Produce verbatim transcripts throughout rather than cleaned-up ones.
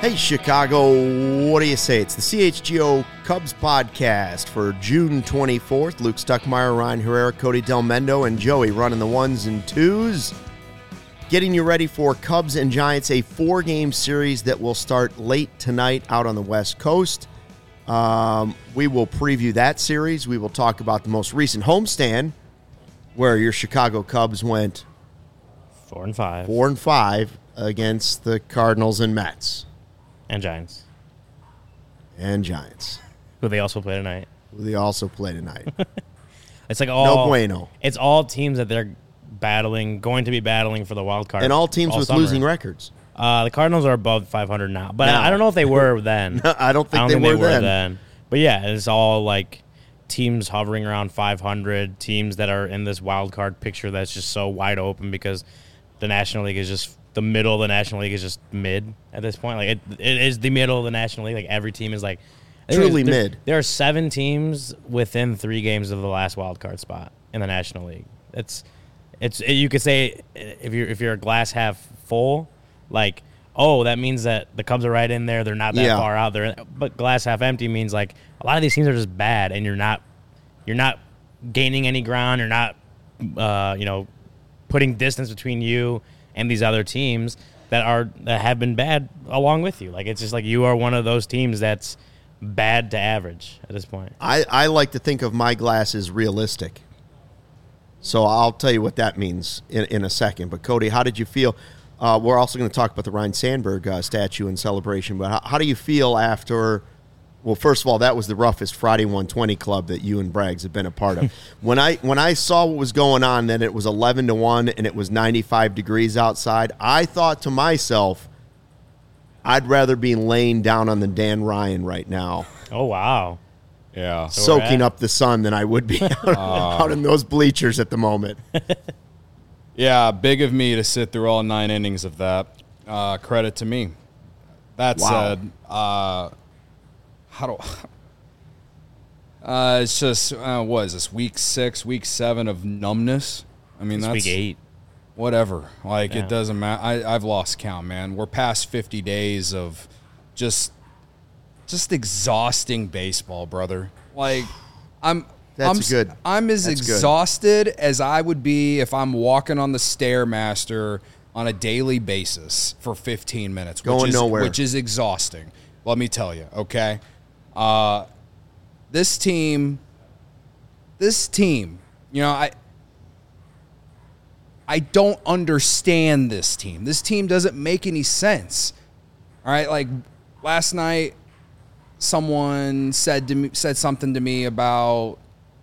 Hey, Chicago, what do you say? It's the C H G O Cubs podcast for June twenty-fourth. Luke Stuckmeyer, Ryan Herrera, Cody Del Mendo, and Joey running the ones and twos. Getting you ready for Cubs and Giants, a four-game series that will start late tonight out on the West Coast. Um, we will preview that series. We will talk about the most recent homestand, where your Chicago Cubs went four and five, four and five against the Cardinals and Mets. And Giants. And Giants. Who they also play tonight. Who they also play tonight. It's like all no bueno. It's all teams that they're battling, going to be battling for the wild card. And all teams all with summer. losing records. Uh, the Cardinals are above five hundred now, but now. I don't know if they were then. no, I don't think, I don't they, think were, they were then. then. But yeah, it's all like teams hovering around five hundred, teams that are in this wild card picture that's just so wide open because the National League is just the middle of the National League is just mid at this point. Like it, it is the middle of the National League. Like every team is like truly there, mid. There are seven teams within three games of the last wild card spot in the National League. It's it's you could say if you're if you're a glass half full, like oh that means that the Cubs are right in there. They're not that yeah. far out there. But glass half empty means like a lot of these teams are just bad, and you're not you're not gaining any ground. You're not uh, you know putting distance between you and these other teams that are that have been bad along with you. Like it's just like you are one of those teams that's bad to average at this point. I, I like to think of my glass as realistic. So I'll tell you what that means in, in a second. But, Cody, how did you feel? Uh, we're also going to talk about the Ryne Sandberg uh, statue and celebration. But how, how do you feel after – well, first of all, that was the roughest Friday one twenty club that you and Braggs have been a part of. when I when I saw what was going on, then it was eleven to one and it was ninety-five degrees outside, I thought to myself, I'd rather be laying down on the Dan Ryan right now. Oh, wow. Yeah. So soaking up the sun than I would be out, uh, out in those bleachers at the moment. Yeah, big of me to sit through all nine innings of that. Uh, credit to me. That Wow. said, uh, how do uh, it's just uh, what is this week six, week seven of numbness? I mean, It's that's week eight. Whatever. Like Yeah. it doesn't matter. I, I've lost count, man. We're past fifty days of just just exhausting baseball, brother. Like I'm That's I'm, good. I'm as That's good. exhausted as I would be if I'm walking on the Stairmaster on a daily basis for fifteen minutes, Going which is nowhere. which is exhausting. Let me tell you, okay? Uh, this team, this team, you know, I, I don't understand this team. This team doesn't make any sense. All right, like last night, someone said to me, said something to me about,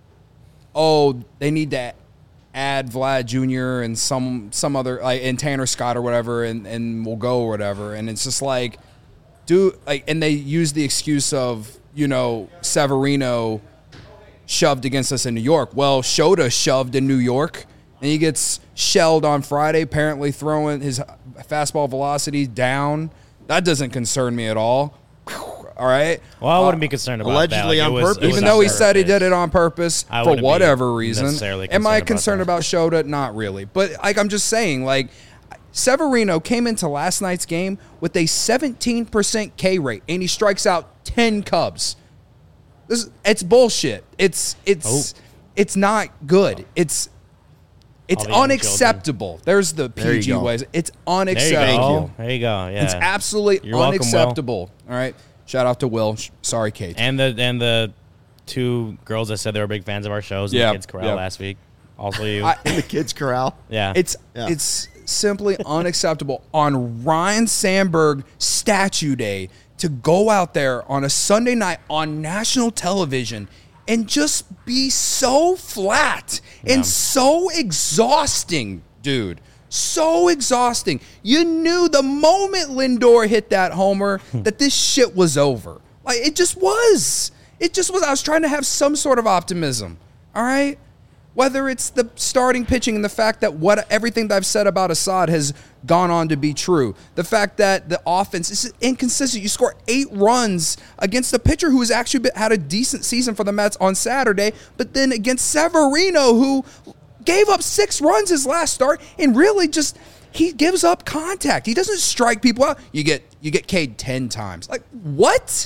oh, they need to add Vlad Junior and some some other like and Tanner Scott or whatever, and and we'll go or whatever. And it's just like, dude, like, and they use the excuse of, you know, Severino shoved against us in New York. Well, Shota shoved in New York, and he gets shelled on Friday, apparently throwing his fastball velocity down. That doesn't concern me at all. All right? Well, I wouldn't be concerned about allegedly that. Like, on it was- purpose. it was Even on though he purpose. said he did it on purpose I for wouldn't be whatever reason. necessarily Am I concerned concerned about about Shota? Not really. But like I'm just saying, like Severino came into last night's game with a seventeen percent K rate, and he strikes out ten Cubs. This it's bullshit. It's it's Oh. it's not good. It's it's All the young unacceptable. There's the There you P G go. ways. It's There you unacceptable. go. There you go. Yeah. It's absolutely You're welcome, Will. unacceptable. All right. Shout out to Will. Sh- Sorry, Kate. And the and the two girls that said they were big fans of our shows in Yeah, the Kids Corral yeah. last week. Also you. I- In the kids' corral. yeah. It's Yeah. it's simply unacceptable on Ryne Sandberg Statue Day to go out there on a Sunday night on national television and just be so flat Yeah. and so exhausting, dude. So exhausting. You knew the moment Lindor hit that homer that this shit was over. Like, it just was. It just was. I was trying to have some sort of optimism. All right? Whether it's the starting pitching and the fact that what everything that I've said about Assad has gone on to be true. The fact that the offense is inconsistent. You score eight runs against a pitcher who has actually been, had a decent season for the Mets on Saturday, but then against Severino, who gave up six runs his last start and really just he gives up contact. He doesn't strike people out. You get you get K'd ten times. Like what?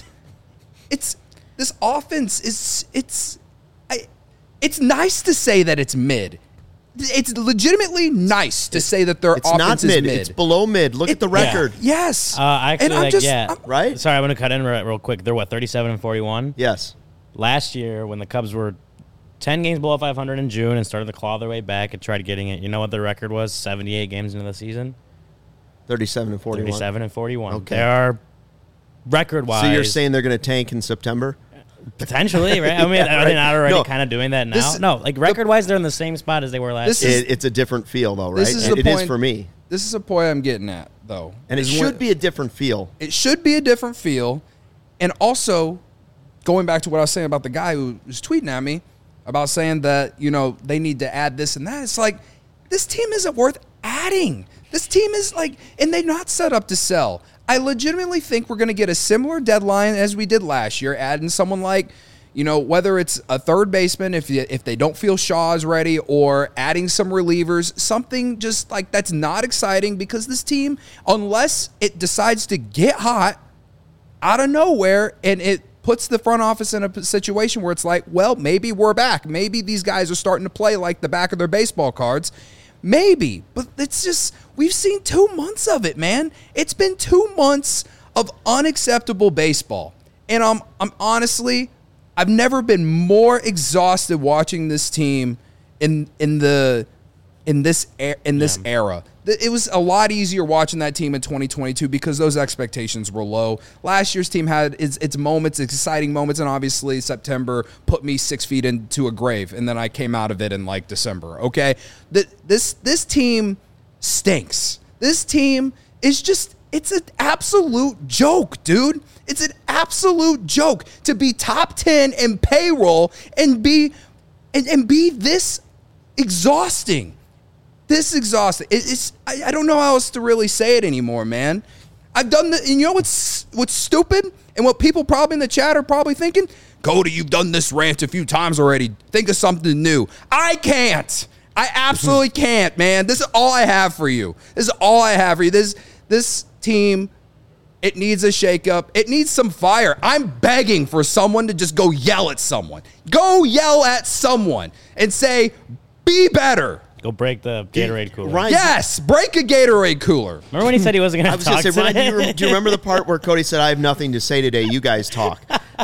It's this offense is it's I, it's nice to say that it's mid. It's legitimately nice to say that their It's offense not is mid. mid. It's below mid. Look It- at the record. Yes. Uh, actually, And I'm like, just- yeah, I'm- Right? Sorry, I'm going to cut in real, real quick. They're what, thirty-seven and forty-one? Yes. Last year, when the Cubs were ten games below five hundred in June and started to claw their way back and tried getting it, you know what their record was? seventy-eight games into the season? thirty-seven and forty-one. thirty-seven and forty-one. Okay. They are record-wise. So you're saying they're going to tank in September? Potentially, right? I mean, Yeah, are they right. not already No. kind of doing that now? This- no, like record-wise, they're in the same spot as they were last This year. is- It, it's a different feel, though, right? This is It- the it is point- for me. This is a point I'm getting at, though. And it is should when- be a different feel. It should be a different feel. And also, going back to what I was saying about the guy who was tweeting at me about saying that, you know, they need to add this and that. It's like, this team isn't worth adding. This team is like, and they're not set up to sell. I legitimately think we're going to get a similar deadline as we did last year, adding someone like, you know, whether it's a third baseman, if you, if they don't feel Shaw is ready, or adding some relievers, something just like that's not exciting, because this team, unless it decides to get hot out of nowhere and it puts the front office in a situation where it's like, well, maybe we're back. Maybe these guys are starting to play like the back of their baseball cards. Maybe. But it's just, we've seen two months of it, man. It's been two months of unacceptable baseball. And I'm, I'm honestly, I've never been more exhausted watching this team in in the in this er- in this Yeah. era. Th- It was a lot easier watching that team in twenty twenty-two because those expectations were low. Last year's team had its, its moments, exciting moments, and obviously September put me six feet into a grave, and then I came out of it in like December. Okay, Th- this this team stinks. This team is just, it's an absolute joke, dude. It's an absolute joke to be top ten in payroll and be and, and be this exhausting. This exhausting. It, it's I, I don't know how else to really say it anymore, man. I've done the, and you know what's what's stupid and what people probably in the chat are probably thinking? Cody, you've done this rant a few times already. Think of something new. I can't. I absolutely can't, man. This is all I have for you. This is all I have for you. This this team, it needs a shakeup. It needs some fire. I'm begging for someone to just go yell at someone. Go yell at someone and say, be better. Go break the Gatorade cooler. Ryan, Yes, break a Gatorade cooler. Remember when he said he wasn't going I to was talk going to say, Ryan, do you, today? rem- do you remember the part where Cody said, I have nothing to say today, you guys talk?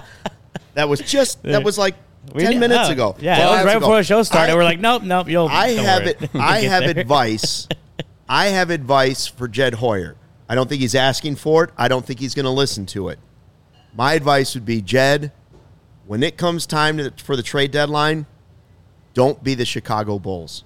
That was just, that was like We ten did- minutes oh, ago. Yeah, twelve it was minutes right ago. before the show started. I- We're like, nope, nope, you'll. I don't have worry. it. We'll I get have there. advice. I have advice for Jed Hoyer. I don't think he's asking for it. I don't think he's going to listen to it. My advice would be, Jed, when it comes time to, for the trade deadline, don't be the Chicago Bulls.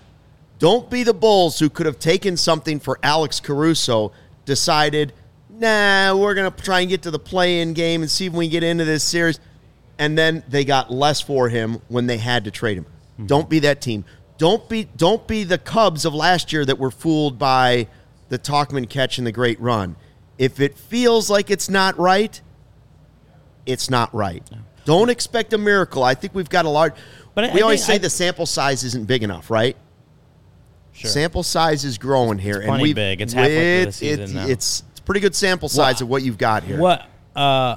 Don't be the Bulls who could have taken something for Alex Caruso, decided, nah, we're going to try and get to the play-in game and see if we can get into this series. And then they got less for him when they had to trade him. Mm-hmm. Don't be that team. Don't be don't be the Cubs of last year that were fooled by the Talkman catch and the great run. If it feels like it's not right, it's not right. No. Don't expect a miracle. I think we've got a large... But I, we I always think say I, the sample size isn't big enough, right? Sure. Sample size is growing here. It's and plenty we big. It's halfway through the season it's, now. It's, it's a pretty good sample size Well, of what you've got here. What uh,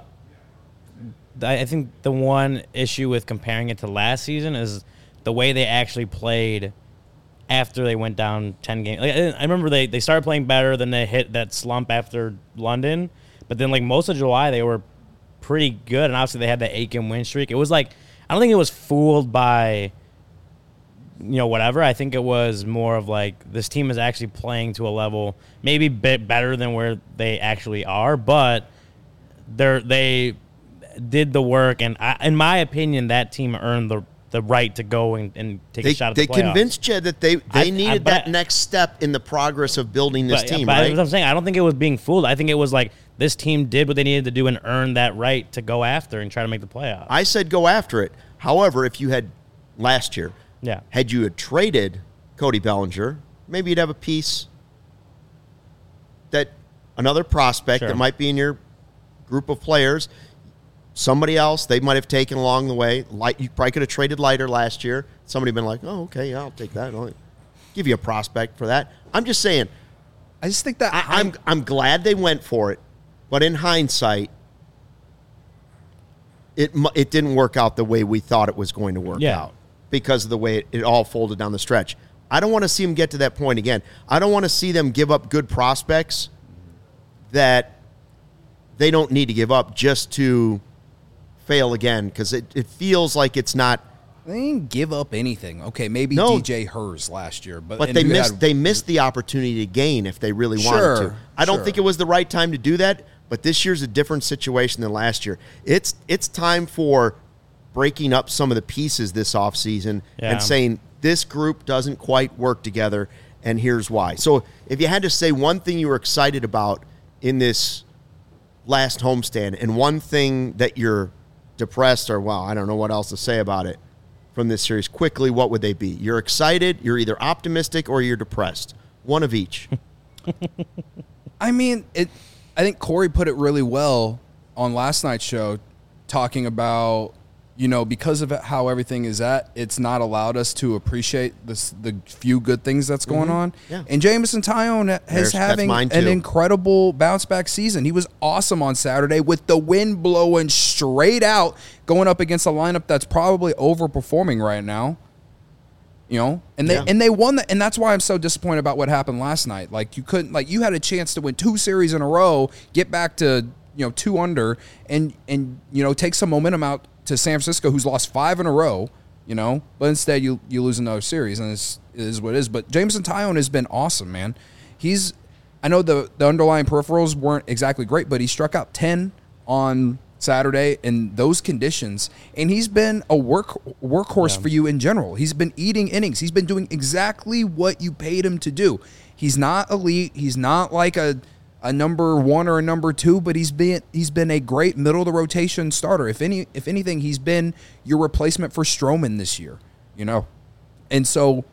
I I think the one issue with comparing it to last season is the way they actually played after they went down ten games. Like, I I remember they, they started playing better, then they hit that slump after London. But then, like, most of July, they were pretty good. And obviously, they had that eight-game win streak. It was like, I don't think it was fooled by, you know, whatever. I think it was more of like, this team is actually playing to a level maybe a bit better than where they actually are. But they're, they did the work. And I, in my opinion, that team earned the the right to go and, and take they, a shot at they the playoffs. convinced Jed that they, they I- I- needed but that I- next step in the progress of building this but, team, but right? As I'm saying, I don't think it was being fooled. I think it was like this team did what they needed to do and earn that right to go after and try to make the playoffs. I said go after it. However, if you had last year, yeah. had you had traded Cody Bellinger, maybe you'd have a piece that another prospect Sure. that might be in your group of players. Somebody else they might have taken along the way. Light, you probably could have traded Lighter last year. Somebody been like, oh, okay, yeah, I'll take that. I'll give you a prospect for that. I'm just saying, I just think that I, I'm I'm glad they went for it, but in hindsight, it mu- it didn't work out the way we thought it was going to work Yeah. out because of the way it, it all folded down the stretch. I don't want to see them get to that point again. I don't want to see them give up good prospects that they don't need to give up just to fail again, because it, it feels like it's not. They didn't give up anything. Okay, maybe No. D J Hers last year, but But and they you missed had- they missed the opportunity to gain if they really wanted Sure, to. I don't sure. think it was the right time to do that, but this year's a different situation than last year. It's it's time for breaking up some of the pieces this offseason Yeah. and saying this group doesn't quite work together, and here's why. So if you had to say one thing you were excited about in this last homestand and one thing that you're depressed or, wow, I don't know what else to say about it from this series, quickly, what would they be? You're excited, you're either optimistic, or you're depressed. One of each. I mean, it. I think Corey put it really well on last night's show, talking about, you know, because of how everything is at, it's not allowed us to appreciate this, the few good things that's going on. Yeah. And Jamison Tyone There's- is that's having mine an too. incredible bounce back season. He was awesome on Saturday with the wind blowing straight out, going up against a lineup that's probably overperforming right now. You know, and they Yeah. and they won that, and that's why I'm so disappointed about what happened last night. Like you couldn't, like you had a chance to win two series in a row, get back to, you know, two under, and and you know take some momentum out to San Francisco, who's lost five in a row. You know, but instead you you lose another series, and it's, it is what it is. But Jamison Tyone has been awesome, man. He's, I know the the underlying peripherals weren't exactly great, but he struck out ten on Saturday in those conditions, and he's been a work workhorse for you in general. He's been eating innings. He's been doing exactly what you paid him to do. He's not elite. He's not like a a number one or a number two, but he's been he's been a great middle of the rotation starter. If any if anything, he's been your replacement for Stroman this year. You know, and so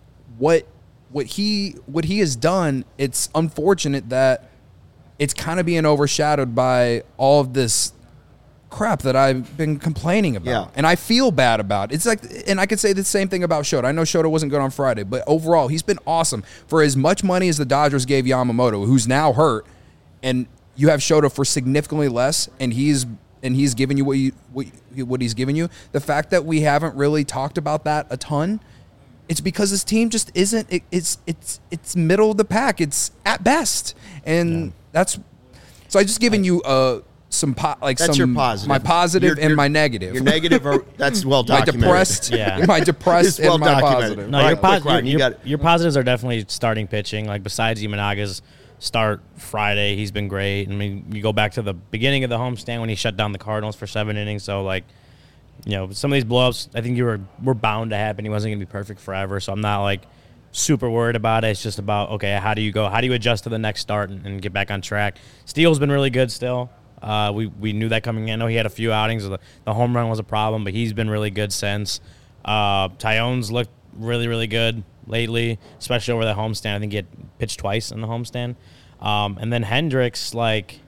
what what he what he has done. It's unfortunate that it's kind of being overshadowed by all of this crap that I've been complaining about. Yeah. And I feel bad about it. It's like, and I could say the same thing about Shota. I know Shota wasn't good on Friday, but overall, he's been awesome. For as much money as the Dodgers gave Yamamoto, who's now hurt, and you have Shota for significantly less, and he's and he's giving you what you what, what he's giving you. The fact that we haven't really talked about that a ton, it's because this team just isn't. It, it's it's it's middle of the pack. It's at best, and yeah. that's. So I just given you a. Some po- like That's some your positive. my positive You're- and you're- my negative. Your negative, are, that's well my documented. depressed, Yeah. my depressed It's well and my documented. positive. No, Right, your, quick, pos- Ryan, your, you your, got it. your positives are definitely starting pitching. Like besides Imanaga's start Friday, he's been great. I mean, you go back to the beginning of the homestand when he shut down the Cardinals for seven innings. So like, you know, some of these blowups, I think you were were bound to happen. He wasn't going to be perfect forever. So I'm not like super worried about it. It's just about okay, how do you go? How do you adjust to the next start and, and get back on track? Steele's been really good still. Uh, we, we knew that coming in. I know he had a few outings. The, the home run was a problem, but he's been really good since. Uh, Tyone's looked really, really good lately, especially over the homestand. I think he had pitched twice in the homestand. Um, and then Hendricks, like,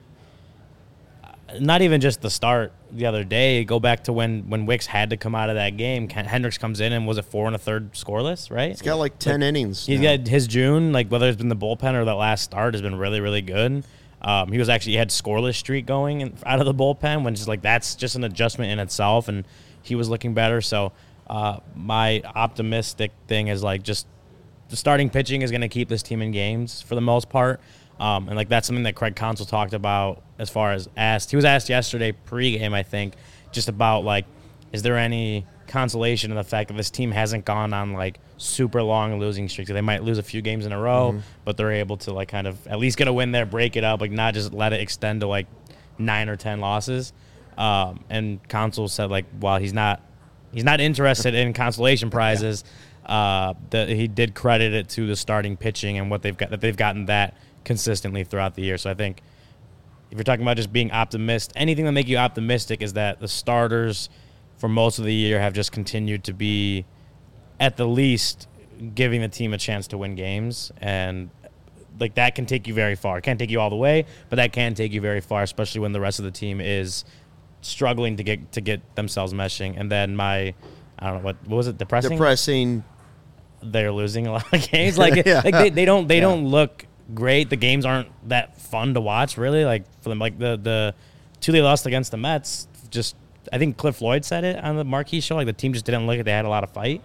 not even just the start the other day. Go back to when, when Wicks had to come out of that game. Hendricks comes in and was it four and a third scoreless, right? He's got like ten like, innings. He's now. got his June, like whether it's been the bullpen or that last start, has been really, really good. Um, he was actually he had scoreless streak going in, out of the bullpen, when just like that's just an adjustment in itself, and he was looking better. So uh, my optimistic thing is like just the starting pitching is going to keep this team in games for the most part, um, and like that's something that Craig Counsell talked about as far as asked. He was asked yesterday pregame, I think, just about like is there any consolation in the fact that this team hasn't gone on like super long losing streaks. They might lose a few games in a row, mm-hmm. but they're able to like kind of at least get a win there, break it up, like not just let it extend to like nine or ten losses. Um, and Counsell said like while he's not he's not interested in consolation prizes, uh, that he did credit it to the starting pitching and what they've got that they've gotten that consistently throughout the year. So I think if you're talking about just being optimistic, anything that make you optimistic is that the starters for most of the year have just continued to be at the least giving the team a chance to win games, and like that can take you very far. It can't take you all the way, but that can take you very far, especially when the rest of the team is struggling to get to get themselves meshing. And then my, I don't know what what was it, depressing? Depressing. They're losing a lot of games. Like Yeah. like they, they don't they Yeah. don't look great. The games aren't that fun to watch, really. Like for them, like the the two they lost against the Mets, just I think Cliff Floyd said it on the Marquee show. Like the team just didn't look like they had a lot of fight.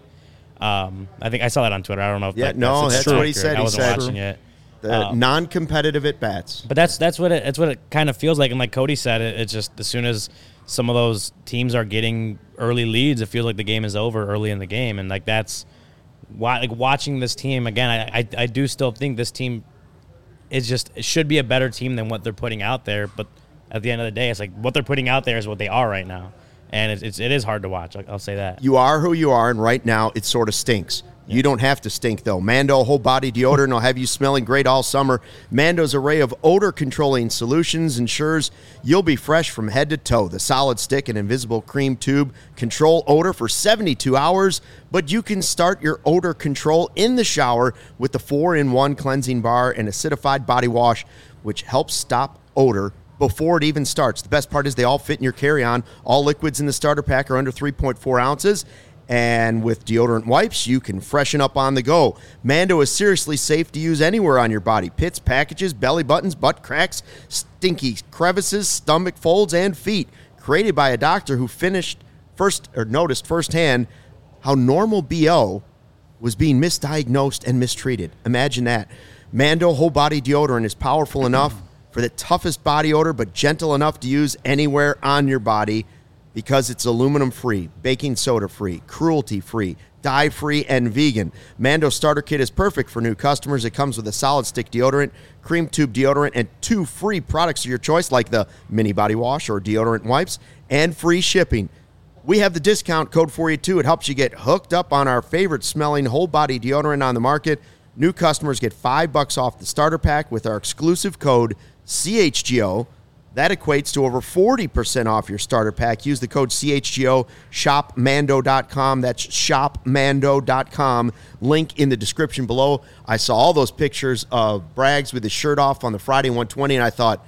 Um, I think I saw that on Twitter. I don't know if Yeah, that, no, that's, that's what he said. I He wasn't said watching it. The Um, non-competitive at bats. But that's that's what it that's what it kind of feels like. And like Cody said, it, it's just as soon as some of those teams are getting early leads, it feels like the game is over early in the game. And like that's why, like watching this team again, I I, I do still think this team is just it should be a better team than what they're putting out there. But at the end of the day, it's like what they're putting out there is what they are right now, and it's, it's it is hard to watch. I'll, I'll say that. You are who you are, and right now it sort of stinks. You don't have to stink, though. Mando whole body deodorant will have you smelling great all summer. Mando's array of odor controlling solutions ensures you'll be fresh from head to toe. The solid stick and invisible cream tube control odor for seventy-two hours, but you can start your odor control in the shower with the four in one cleansing bar and acidified body wash, which helps stop odor before it even starts. The best part is they all fit in your carry-on. All liquids in the starter pack are under three point four ounces. And with deodorant wipes, you can freshen up on the go. Mando is seriously safe to use anywhere on your body. Pits, packages, belly buttons, butt cracks, stinky crevices, stomach folds, and feet. Created by a doctor who finished first or noticed firsthand how normal B O was being misdiagnosed and mistreated. Imagine that. Mando whole body deodorant is powerful enough for the toughest body odor, but gentle enough to use anywhere on your body. Because it's aluminum-free, baking soda-free, cruelty-free, dye-free, and vegan. Mando Starter Kit is perfect for new customers. It comes with a solid stick deodorant, cream tube deodorant, and two free products of your choice like the mini body wash or deodorant wipes, and free shipping. We have the discount code for you, too. It helps you get hooked up on our favorite-smelling whole-body deodorant on the market. New customers get five bucks off the starter pack with our exclusive code C H G O. That equates to over forty percent off your starter pack. Use the code C H G O, shop mando dot com. That's shop mando dot com. Link in the description below. I saw all those pictures of Braggs with his shirt off on the Friday one twenty, and I thought,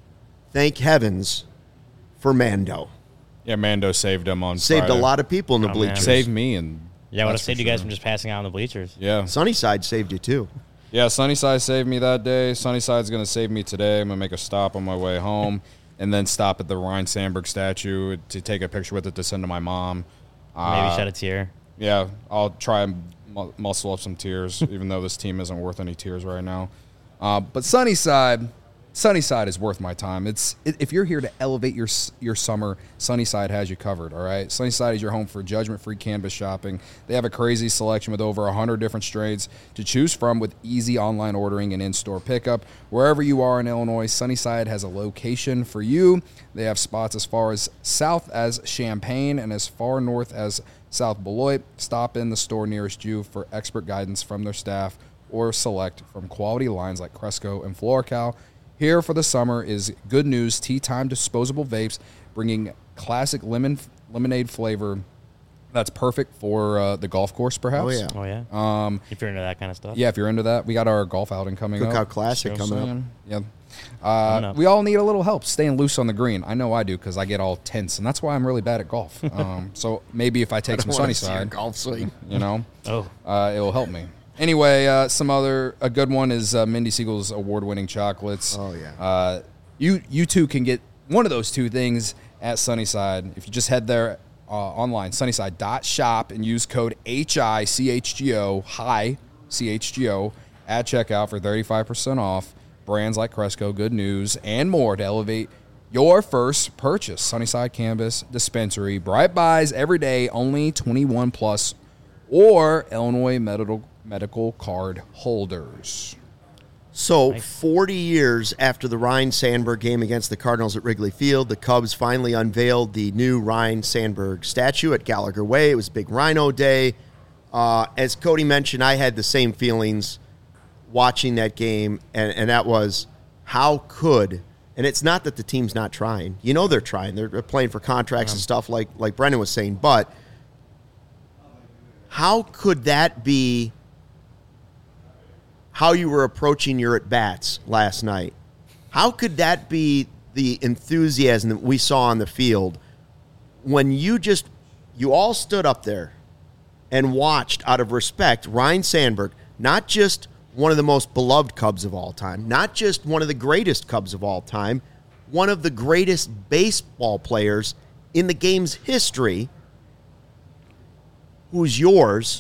thank heavens for Mando. Yeah, Mando saved him on Saved Friday. a lot of people in the Oh, bleachers. man. Saved me. and Yeah, I would have that's saved for you guys sure. from just passing out on the bleachers. Yeah. Sunnyside saved you, too. Yeah, Sunnyside saved me that day. Sunnyside's going to save me today. I'm going to make a stop on my way home and then stop at the Ryan Sandberg statue to take a picture with it to send to my mom. Maybe Uh, shed a tear. Yeah, I'll try and mu- muscle up some tears, even though this team isn't worth any tears right now. Uh, but Sunnyside, Sunnyside is worth my time. It's it, if you're here to elevate your s- your summer, Sunnyside has you covered. All right, Sunnyside is your home for judgment-free cannabis shopping. They have a crazy selection with over one hundred different strains to choose from, with easy online ordering and in-store pickup. Wherever you are in Illinois, Sunnyside has a location for you. They have spots as far as south as Champaign and as far north as South Beloit. Stop in the store nearest you for expert guidance from their staff, or select from quality lines like Cresco and FloraCal. Here for the summer is Good News Tea Time disposable vapes, bringing classic lemon lemonade flavor that's perfect for uh, the golf course, perhaps. Oh, yeah. Oh, yeah? Um, If you're into that kind of stuff. yeah, if you're into that, we got our golf outing coming Cookout up. Classic You know what coming I'm up. saying? Yeah. Uh, Coming up. we all need a little help staying loose on the green. I know I do because I get all tense, and that's why I'm really bad at golf. Um, so maybe if I take some I wanna see your Sunnyside, golf swing. you know, Oh. uh, it will help me. Anyway, uh, some other a good one is uh, Mindy Siegel's award-winning chocolates. Oh, yeah. Uh, you you too can get one of those two things at Sunnyside if you just head there uh, online, sunnyside dot shop, and use code H I C H G O, hi C H G O, at checkout for thirty-five percent off. Brands like Cresco, Good News, and more to elevate your first purchase. Sunnyside Cannabis Dispensary, bright buys every day, only twenty-one plus, or Illinois medical medical card holders. So, Nice. forty years after the Ryan Sandberg game against the Cardinals at Wrigley Field, the Cubs finally unveiled the new Ryan Sandberg statue at Gallagher Way. It was Big Rhino Day. Uh, as Cody mentioned, I had the same feelings watching that game, and, and that was how could, and it's not that the team's not trying. You know they're trying. They're playing for contracts and stuff like, like Brendan was saying, but how could that be how you were approaching your at-bats last night? How could that be the enthusiasm that we saw on the field when you just, you all stood up there and watched out of respect Ryan Sandberg not just one of the most beloved Cubs of all time, not just one of the greatest Cubs of all time, one of the greatest baseball players in the game's history, who's yours,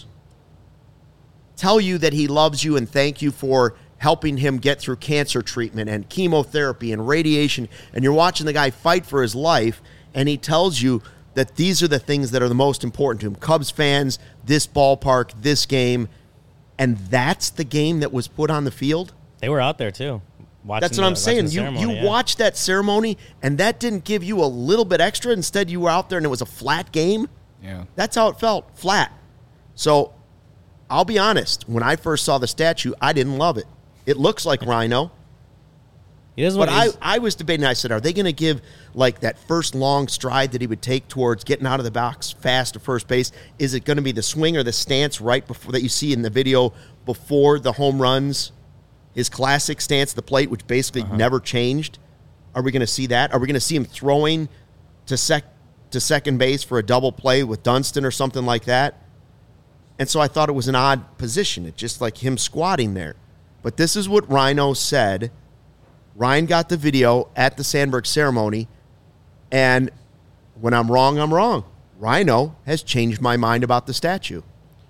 tell you that he loves you and thank you for helping him get through cancer treatment and chemotherapy and radiation, and you're watching the guy fight for his life, and he tells you that these are the things that are the most important to him. Cubs fans, this ballpark, this game, and that's the game that was put on the field? They were out there, too. That's what I'm saying. You you yeah. watched that ceremony, and that didn't give you a little bit extra. Instead, you were out there, and it was a flat game. Yeah. That's how it felt, flat. So I'll be honest. When I first saw the statue, I didn't love it. It looks like Rhino. He does But what I, he's- I was debating. I said, are they going to give, like, that first long stride that he would take towards getting out of the box fast to first base? Is it going to be the swing or the stance right before that you see in the video before the home runs? His classic stance at the plate, which basically Uh-huh. never changed. Are we going to see that? Are we going to see him throwing to sec to second base for a double play with Dunston or something like that? And so I thought it was an odd position. It's just like him squatting there. But this is what Rhino said. Ryan got the video at the Sandberg ceremony, and when I'm wrong, I'm wrong. Rhino has changed my mind about the statue.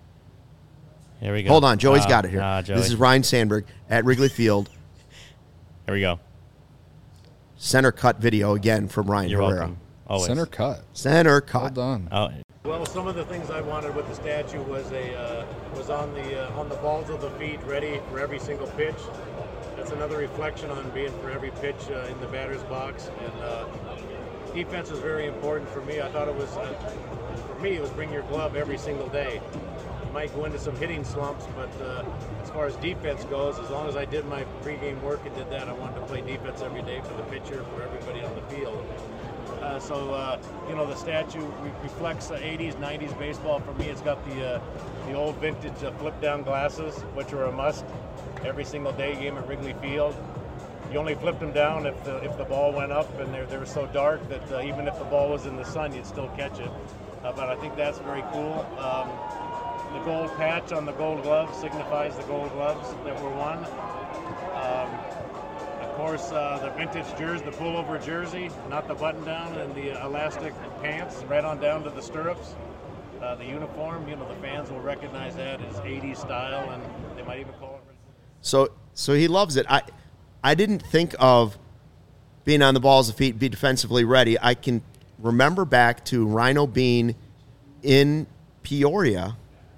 Here we go. Hold on, Joey's Uh, got it here. uh, Joey. This is Ryan Sandberg at Wrigley Field. Here we go. Center cut video again from Ryan You're Herrera. welcome. Always. Center cut. Center Well cut. done. Oh, Well, some of the things I wanted with the statue was a uh, was on the uh, on the balls of the feet, ready for every single pitch. That's another reflection on being for every pitch uh, in the batter's box. And uh, defense is very important for me. I thought it was uh, for me it was bring your glove every single day. You might go into some hitting slumps, but uh, as far as defense goes, as long as I did my pregame work and did that, I wanted to play defense every day for the pitcher, for everybody on the field. Uh, so, uh, you know, the statue re- reflects the eighties, nineties baseball. For me, it's got the uh, the old vintage uh, flip-down glasses, which are a must every single day game at Wrigley Field. You only flipped them down if the if the ball went up, and they they were so dark that uh, even if the ball was in the sun, you'd still catch it. Uh, but I think that's very cool. Um, the gold patch on the gold glove signifies the gold gloves that were won. Um, Of course, uh, the vintage jersey, the pullover jersey, not the button-down, and the uh, elastic pants, right on down to the stirrups. Uh, the uniform, you know, the fans will recognize that as eighties style, and they might even call it. So so he loves it. I I didn't think of being on the balls of feet, be defensively ready. I can remember back to Rhino being in Peoria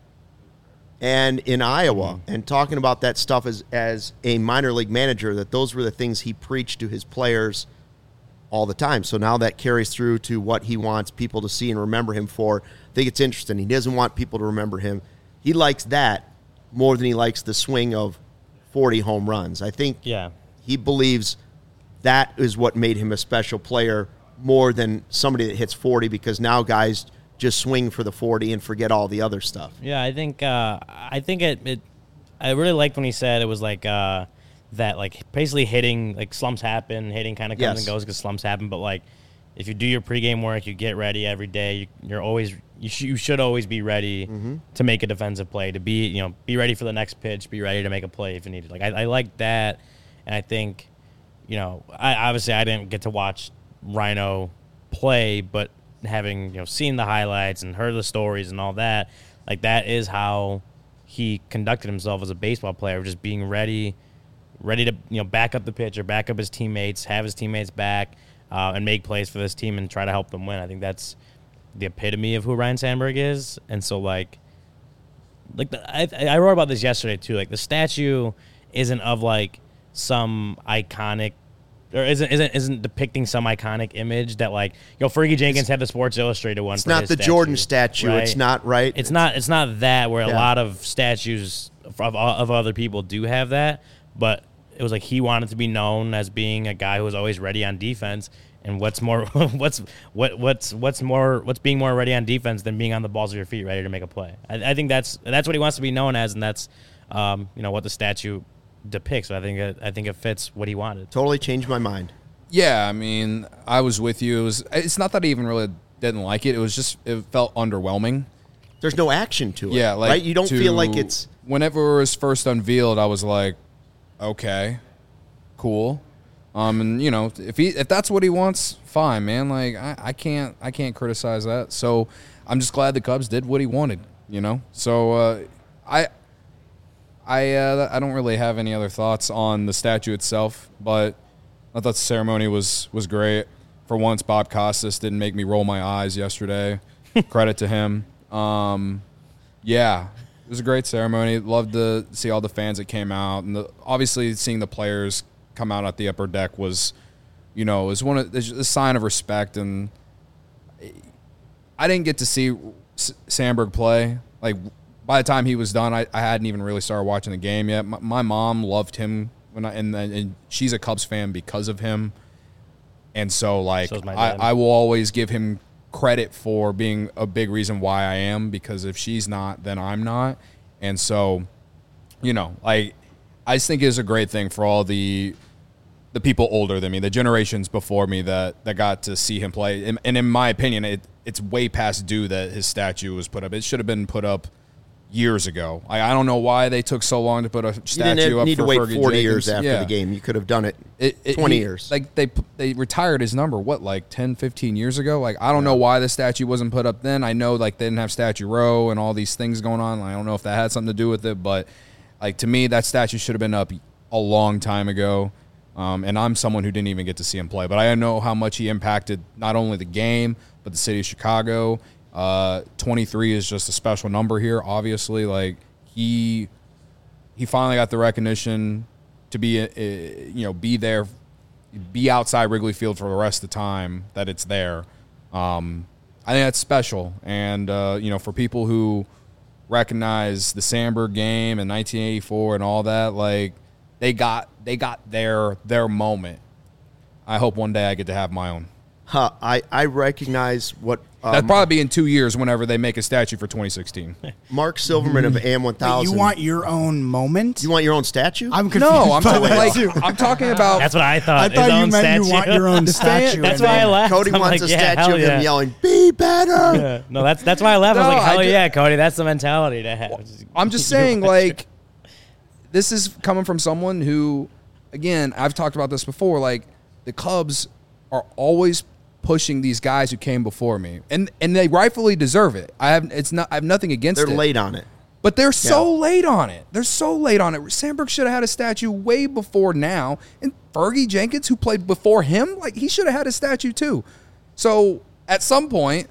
and in Iowa Mm-hmm. and talking about that stuff as, as a minor league manager, that those were the things he preached to his players all the time. So now that carries through to what he wants people to see and remember him for. I think it's interesting. He doesn't want people to remember him. He likes that more than he likes the swing of forty home runs. I think yeah. he believes that is what made him a special player more than somebody that hits forty, because now guys just swing for the forty and forget all the other stuff. Yeah, I think uh, I think it, it. I really liked when he said it was like uh, that, like basically hitting, like slumps happen, hitting kind of comes Yes. and goes because slumps happen. But like, if you do your pregame work, you get ready every day. You, you're always you, sh- you should always be ready Mm-hmm. to make a defensive play, to be you know be ready for the next pitch, be ready to make a play if you need it. Like I, I like that, and I think, you know, I obviously I didn't get to watch Rhino play, but having, you know, seen the highlights and heard the stories and all that, like that is how he conducted himself as a baseball player, just being ready, ready to, you know, back up the pitcher, back up his teammates, have his teammates back, uh, and make plays for this team and try to help them win. I think that's the epitome of who Ryan Sandberg is. And so, like, like the, I, I wrote about this yesterday too. Like the statue isn't of like some iconic, or isn't isn't isn't depicting some iconic image that, like, you know, Fergie Jenkins had the Sports Illustrated one. It's for not his the statue, Jordan statue. right? It's not right. It's not. It's not that where a Yeah. lot of statues of, of other people do have that, but it was like he wanted to be known as being a guy who was always ready on defense. And what's more, what's what what's what's more, what's being more ready on defense than being on the balls of your feet, ready to make a play? I, I think that's that's what he wants to be known as, and that's um, you know, what the statue depicts. I think it, I think it fits what he wanted. Totally changed my mind. Yeah, I mean, I was with you. It was. It's not that I even really didn't like it. It was just it felt underwhelming. there's no action to it. Yeah, like right? You don't to- feel like it's Whenever it was first unveiled, I was like, okay, cool. Um, and you know, if he if that's what he wants, fine, man. Like I, I can't I can't criticize that. So I'm just glad the Cubs did what he wanted. You know, so uh, I I uh, I don't really have any other thoughts on the statue itself, but I thought the ceremony was was great. For once, Bob Costas didn't make me roll my eyes yesterday. Credit to him. Um, yeah, it was a great ceremony. Loved to see all the fans that came out, and the, obviously seeing the players come out at the upper deck was, you know, was one of a sign of respect. And I didn't get to see S- Sandberg play. Like by the time he was done, I, I hadn't even really started watching the game yet. My, my mom loved him when I, and, and she's a Cubs fan because of him. And so, like, So's my I, dad. I will always give him credit for being a big reason why I am, because if she's not, then I'm not. And so, you know, like, I just think it's a great thing for all the the people older than me, the generations before me that, that got to see him play. And, and in my opinion, it it's way past due that his statue was put up. It should have been put up years ago. I, I don't know why they took so long to put a you statue didn't up need for to wait Fergie forty Jenkins. years after Yeah. the game. You could have done it, It, it, twenty he- years. Like they they retired his number, what, like ten, fifteen years ago? Like, I don't know why the statue wasn't put up then. I know, like, they didn't have Statue Row and all these things going on. I don't know if that had something to do with it, but, like, to me, that statue should have been up a long time ago. Um, and I'm someone who didn't even get to see him play, but I know how much he impacted not only the game, but the city of Chicago. Uh, twenty-three is just a special number here, obviously. Like, he he finally got the recognition to be, uh, you know, be there, be outside Wrigley Field for the rest of the time that it's there. Um, I think that's special. And, uh, you know, for people who recognize the Sandberg game in nineteen eighty-four and all that, like, they got they got their their moment. I hope one day I get to have my own. Huh, I, I recognize what um, That'd probably be in two years whenever they make a statue for twenty sixteen. Mark Silverman of A M one Wait, thousand. you want your own moment? you want your own statue? I'm confused. No, I'm by talking that, like too. I'm talking about. That's what I thought. I His thought you own meant statue. you want your own statue. That's and why I then- laughed. Cody I'm wants like, a yeah, statue hell of yeah. him yelling, "Be better!" Yeah. No, that's that's why I laughed. I was No, like, hell I ju- yeah, Cody. That's the mentality to have. I'm just You saying, want like, this is coming from someone who, again, I've talked about this before. Like, the Cubs are always pushing these guys who came before me, and and they rightfully deserve it. I have it's not I have nothing against They're it. late on it. But they're so Yeah. late on it. They're so late on it. Sandberg should have had a statue way before now. And Fergie Jenkins, who played before him, like, he should have had a statue too. So at some point,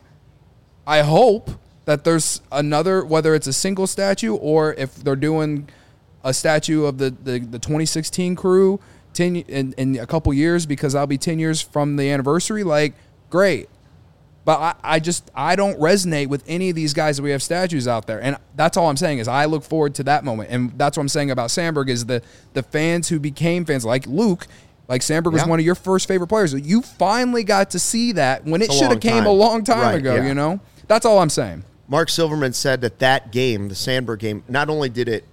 I hope that there's another, whether it's a single statue or if they're doing a statue of the, the, the twenty sixteen crew ten in, in a couple years, because I'll be ten years from the anniversary, like, great. But I, I just, I don't resonate with any of these guys that we have statues out there. And that's all I'm saying is I look forward to that moment. And that's what I'm saying about Sandberg is the, the fans who became fans, like Luke, like Sandberg was Yeah. one of your first favorite players. You finally got to see that when it It's a should have long came time. a long time Right, ago, yeah. you know? That's all I'm saying. Mark Silverman said that that game, the Sandberg game, not only did it,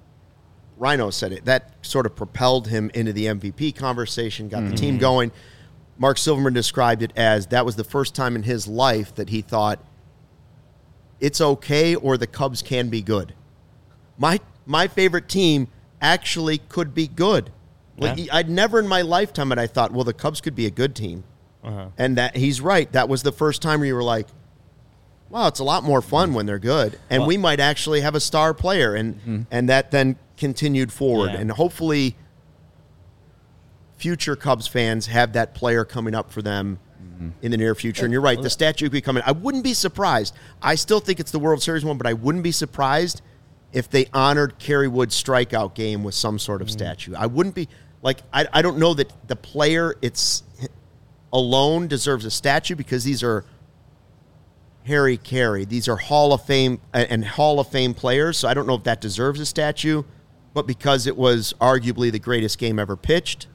Rhino said it, that sort of propelled him into the M V P conversation, got the team going. Mark Silverman described it as that was the first time in his life that he thought it's okay or the Cubs can be good. My my favorite team actually could be good. Like, Yeah. I'd never in my lifetime had I thought, well, the Cubs could be a good team. And that he's right. That was the first time where you were like, wow, it's a lot more fun when they're good. And Well- we might actually have a star player. And and that then continued forward. Yeah. And hopefully future Cubs fans have that player coming up for them in the near future. And you're right, the statue could be coming. I wouldn't be surprised. I still think it's the World Series one, but I wouldn't be surprised if they honored Kerry Wood's strikeout game with some sort of statue. I wouldn't be like I, I don't know that the player it's alone deserves a statue because these are Harry Carey. These are Hall of Fame and Hall of Fame players, so I don't know if that deserves a statue, but because it was arguably the greatest game ever pitched,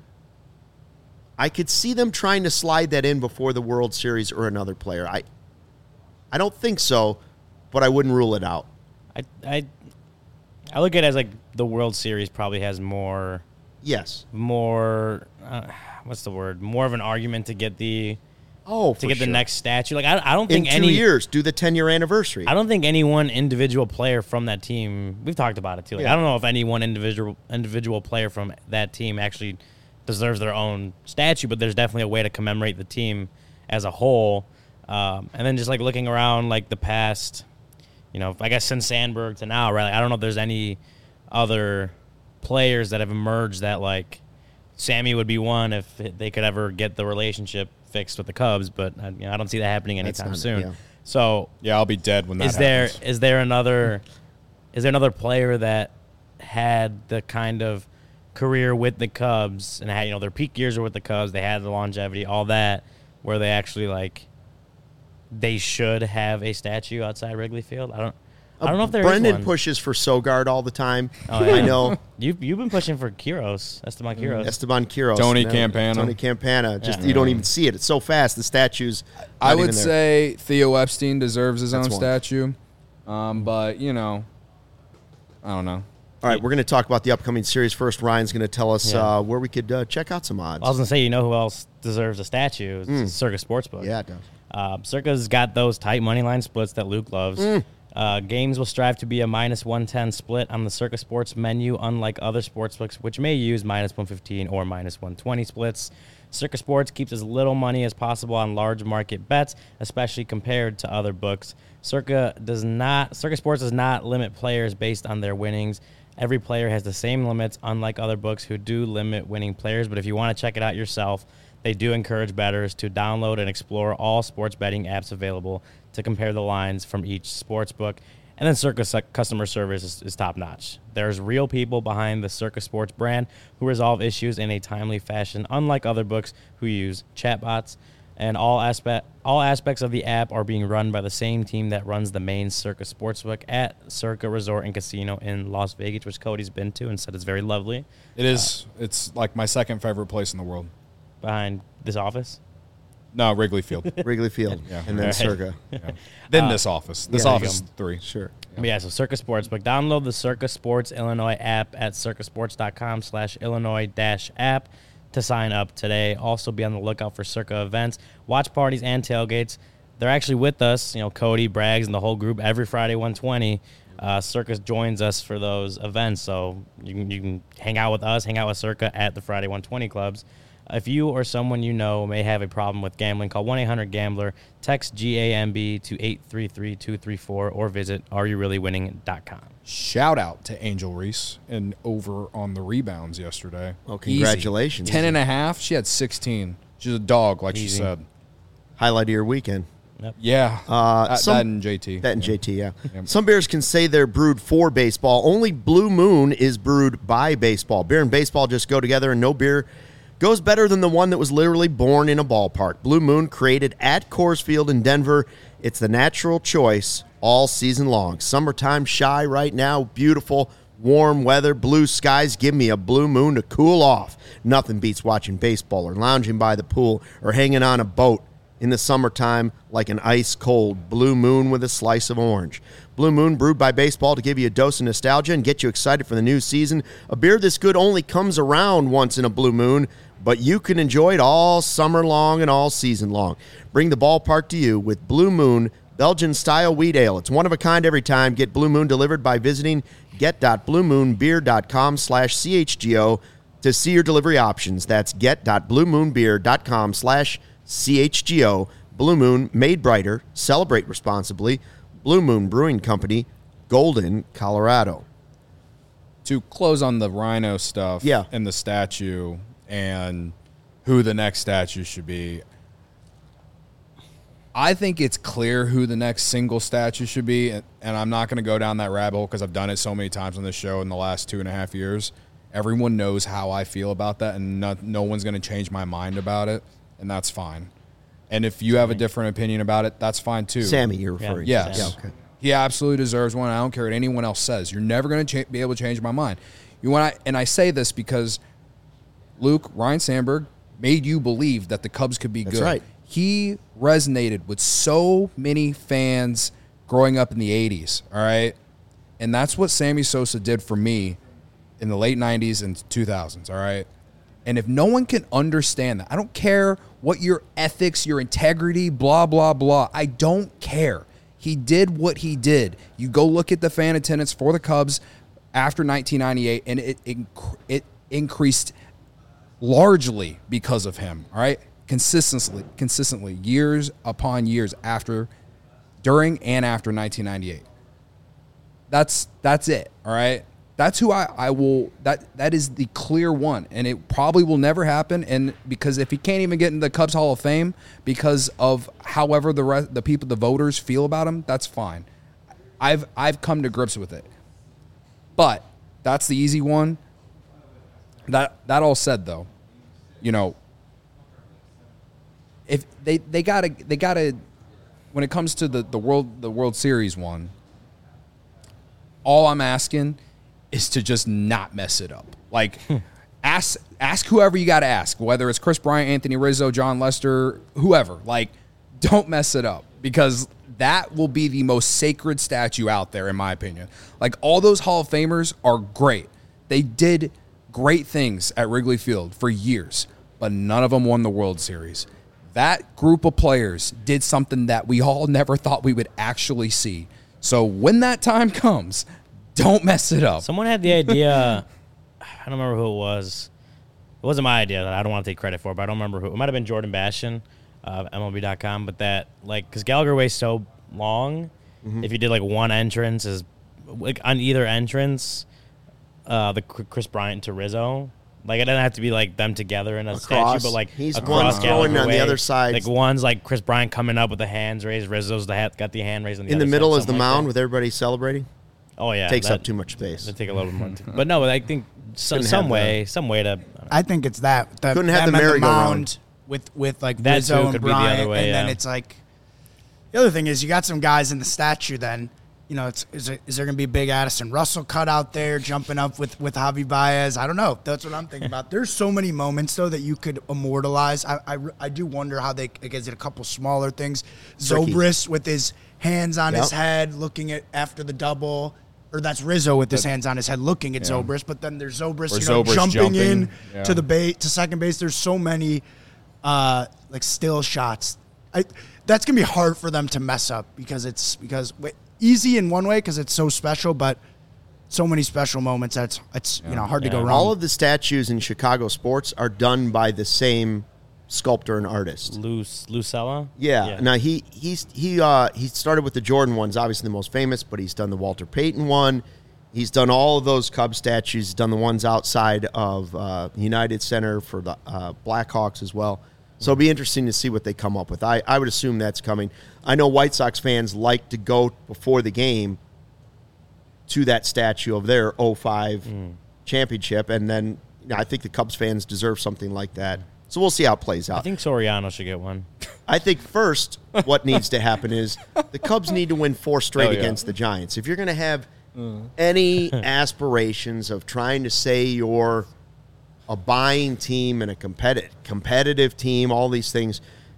I could see them trying to slide that in before the World Series or another player. I I don't think so, but I wouldn't rule it out. I, I I look at it as like the World Series probably has more Yes. more uh, what's the word more of an argument to get the Oh, to for get the sure. next statue. Like I, I don't In think two any years, do the ten-year anniversary. I don't think any one individual player from that team. We've talked about it too. Like, Yeah. I don't know if any one individual individual player from that team actually deserves their own statue, but there's definitely a way to commemorate the team as a whole. Um, and then just like looking around, like the past, you know, I guess since Sandberg to now, right? Like, I don't know if there's any other players that have emerged that like Sammy would be one if they could ever get the relationship fixed with the Cubs, but uh, you know, I don't see that happening That's anytime not- soon. yeah. So Yeah, I'll be dead when that is there happens. is there another is there another player that had the kind of career with the Cubs and had, you know, their peak years were with the Cubs, they had the longevity, all that, where they actually like they should have a statue outside Wrigley Field? I don't I don't know if there is Brendan one. pushes for Sogard all the time. Oh, yeah. I know. You've you've been pushing for Quiros, Esteban Quiros. Esteban Quiros. Tony No, Campana. Tony Campana. Just Yeah. you don't even see it. It's so fast. The statue's I not would even there. say Theo Epstein deserves his That's own one. statue, um, but you know, I don't know. All right, we're going to talk about the upcoming series first. Ryan's going to tell us Yeah. uh, where we could uh, check out some odds. I was gonna say, you know who else deserves a statue? It's Circa Sportsbook. yeah, it does. Uh, Circa's got those tight money line splits that Luke loves. Mm. Uh, games will strive to be a minus one ten split on the Circa Sports menu, unlike other sportsbooks, which may use minus one fifteen or minus one twenty splits. Circa Sports keeps as little money as possible on large market bets, especially compared to other books. Circa does not. Circa Sports does not limit players based on their winnings. Every player has the same limits, unlike other books who do limit winning players. But if you want to check it out yourself, they do encourage bettors to download and explore all sports betting apps available to compare the lines from each sports book. And then Circa su- customer service is, is top-notch. There's real people behind the Circa Sports brand who resolve issues in a timely fashion, unlike other books who use chatbots. And all aspect all aspects of the app are being run by the same team that runs the main Circa Sportsbook at Circa Resort and Casino in Las Vegas, which Cody's been to and said is very lovely. It is. It's like my second favorite place in the world. Behind this office. No, Wrigley Field. Wrigley Field, Yeah. and then Right. Circa. Yeah. Then this office. This yeah, there you office go. three. Sure. But yeah, so Circa Sportsbook. Download the Circa Sports Illinois app at circasports.com slash Illinois dash app to sign up today. Also be on the lookout for Circa events, watch parties, and tailgates. They're actually with us, you know, Cody, Braggs, and the whole group every Friday one twenty. Uh, Circa joins us for those events, so you can, you can hang out with us, hang out with Circa at the Friday one twenty clubs. If you or someone you know may have a problem with gambling, call one eight hundred gambler, text G A M B to eight three three two three four, or visit are you really winning dot com. Shout out to Angel Reese and over on the rebounds yesterday. Oh, congratulations. Easy. ten and a half. She had sixteen. She's a dog, like she Easy. said. Highlight of your weekend. Yeah. Uh, that, some- that and J T. That and J T, yeah. Yep. Some beers can say they're brewed for baseball. Only Blue Moon is brewed by baseball. Beer and baseball just go together, and no beer goes better than the one that was literally born in a ballpark. Blue Moon, created at Coors Field in Denver. It's the natural choice all season long. Summertime shy right now, beautiful, warm weather, blue skies. Give me a Blue Moon to cool off. Nothing beats watching baseball or lounging by the pool or hanging on a boat in the summertime like an ice-cold Blue Moon with a slice of orange. Blue Moon, brewed by baseball to give you a dose of nostalgia and get you excited for the new season. A beer this good only comes around once in a Blue Moon, but you can enjoy it all summer long and all season long. Bring the ballpark to you with Blue Moon Belgian-style wheat ale. It's one of a kind every time. Get Blue Moon delivered by visiting get.bluemoonbeer.com slash CHGO to see your delivery options. That's get.bluemoonbeer.com slash CHGO. Blue Moon, made brighter. Celebrate responsibly. Blue Moon Brewing Company, Golden, Colorado. To close on the Rhino stuff Yeah. and the statue and who the next statue should be, I think it's clear who the next single statue should be, and, and I'm not going to go down that rabbit hole because I've done it so many times on this show in the last two and a half years. Everyone knows how I feel about that, and no, no one's going to change my mind about it, and that's fine. And if you have a different opinion about it, that's fine too. Sammy, you're referring Yes. to. Yeah, okay. He absolutely deserves one. I don't care what anyone else says. You're never going to cha- be able to change my mind. You want, and I say this because Luke, Ryan Sandberg made you believe that the Cubs could be That's good. right. He resonated with so many fans growing up in the eighties, all right? And that's what Sammy Sosa did for me in the late nineties and two thousands, all right? And if no one can understand that, I don't care what your ethics, your integrity, blah, blah, blah. I don't care. He did what he did. You go look at the fan attendance for the Cubs after nineteen ninety-eight, and it it, it increased largely because of him, all right? Consistently, consistently, years upon years after, during and after nineteen ninety-eight. That's that's it, all right? That's who I, I will, that that is the clear one, and it probably will never happen, and because if he can't even get in the Cubs Hall of Fame because of however the rest, the people, the voters feel about him, that's fine. I've I've come to grips with it. But that's the easy one. That that all said, though, you know, if they, they gotta they gotta when it comes to the, the world the World Series one, all I'm asking is to just not mess it up. Like, ask ask whoever you got to ask, whether it's Chris Bryant, Anthony Rizzo, John Lester, whoever. Like, don't mess it up, because that will be the most sacred statue out there, in my opinion. Like, all those Hall of Famers are great. They did great things at Wrigley Field for years, but none of them won the World Series. That group of players did something that we all never thought we would actually see. So when that time comes, don't mess it up. Someone had the idea. I don't remember who it was. It wasn't my idea. That I don't want to take credit for, but I don't remember who. It might have been Jordan Bastian of M L B dot com. But that, like, because Gallagher Way's so long, mm-hmm. if you did like one entrance, is like on either entrance, uh, the Chris Bryant to Rizzo. Like, it doesn't have to be like them together in a across, statue, but like he's across one throwing on Way. the other side. Like, one's like Chris Bryant coming up with the hands raised. Rizzo's the hat, got the hand raised on the in other the middle side, is the like mound that. with everybody celebrating. Oh yeah, Takes that, up too much space. That take a little bit more. Time. But no, I think some, Couldn't some have way, the- some way to. I think it's that. The, Couldn't have them the and merry-go-round. mound with with like That Rizzo too and could be the Bryant, other way, and then yeah. it's like the other thing is you got some guys in the statue. Then you know, it's is, it, is there going to be a big Addison Russell cut out there jumping up with with Javi Baez? I don't know. That's what I'm thinking about. There's so many moments though that you could immortalize. I I, I do wonder how they like, is it a couple smaller things. Tricky. Zobrist with his hands on Yep. his head, looking at after the double. Or that's Rizzo with his hands on his head looking at Yeah. Zobrist, but then there's Zobrist, Or you know, Zobrist jumping, jumping, in yeah. to the bait to second base. There's so many uh, like still shots. I, that's gonna be hard for them to mess up because it's because wait, easy in one way because it's so special, but so many special moments that's it's you know hard to go Yeah. wrong. All of the statues in Chicago sports are done by the same sculptor and artist. Luce, Lucella? Yeah. Now he he's he uh he started with the Jordan ones, obviously the most famous, but he's done the Walter Payton one. He's done all of those Cubs statues. He's done the ones outside of uh, United Center for the uh, Blackhawks as well. So it'll be interesting to see what they come up with. I, I would assume that's coming. I know White Sox fans like to go before the game to that statue of their oh five mm. championship, and then you know, I think the Cubs fans deserve something like that. So we'll see how it plays out. I think Soriano should get one. I think first what needs to happen is the Cubs need to win four straight Oh, yeah. against the Giants. If you're going to have mm. any aspirations of trying to say you're a buying team and a competitive competitive team, all these things,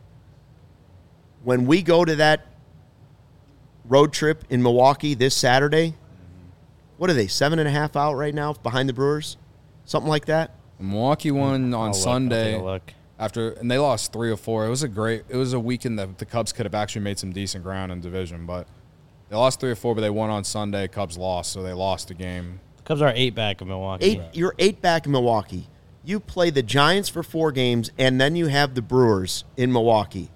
when we go to that road trip in Milwaukee this Saturday, what are they, seven and a half out right now behind the Brewers? Something like that? Milwaukee won on I'll look, Sunday I'll take a look. after, and they lost three or four. It was a great. It was a weekend that the Cubs could have actually made some decent ground in division, but they lost three or four. But they won on Sunday. Cubs lost, so they lost the game. The Cubs are eight back of Milwaukee. Eight, you're eight back in Milwaukee. You play the Giants for four games, and then you have the Brewers in Milwaukee.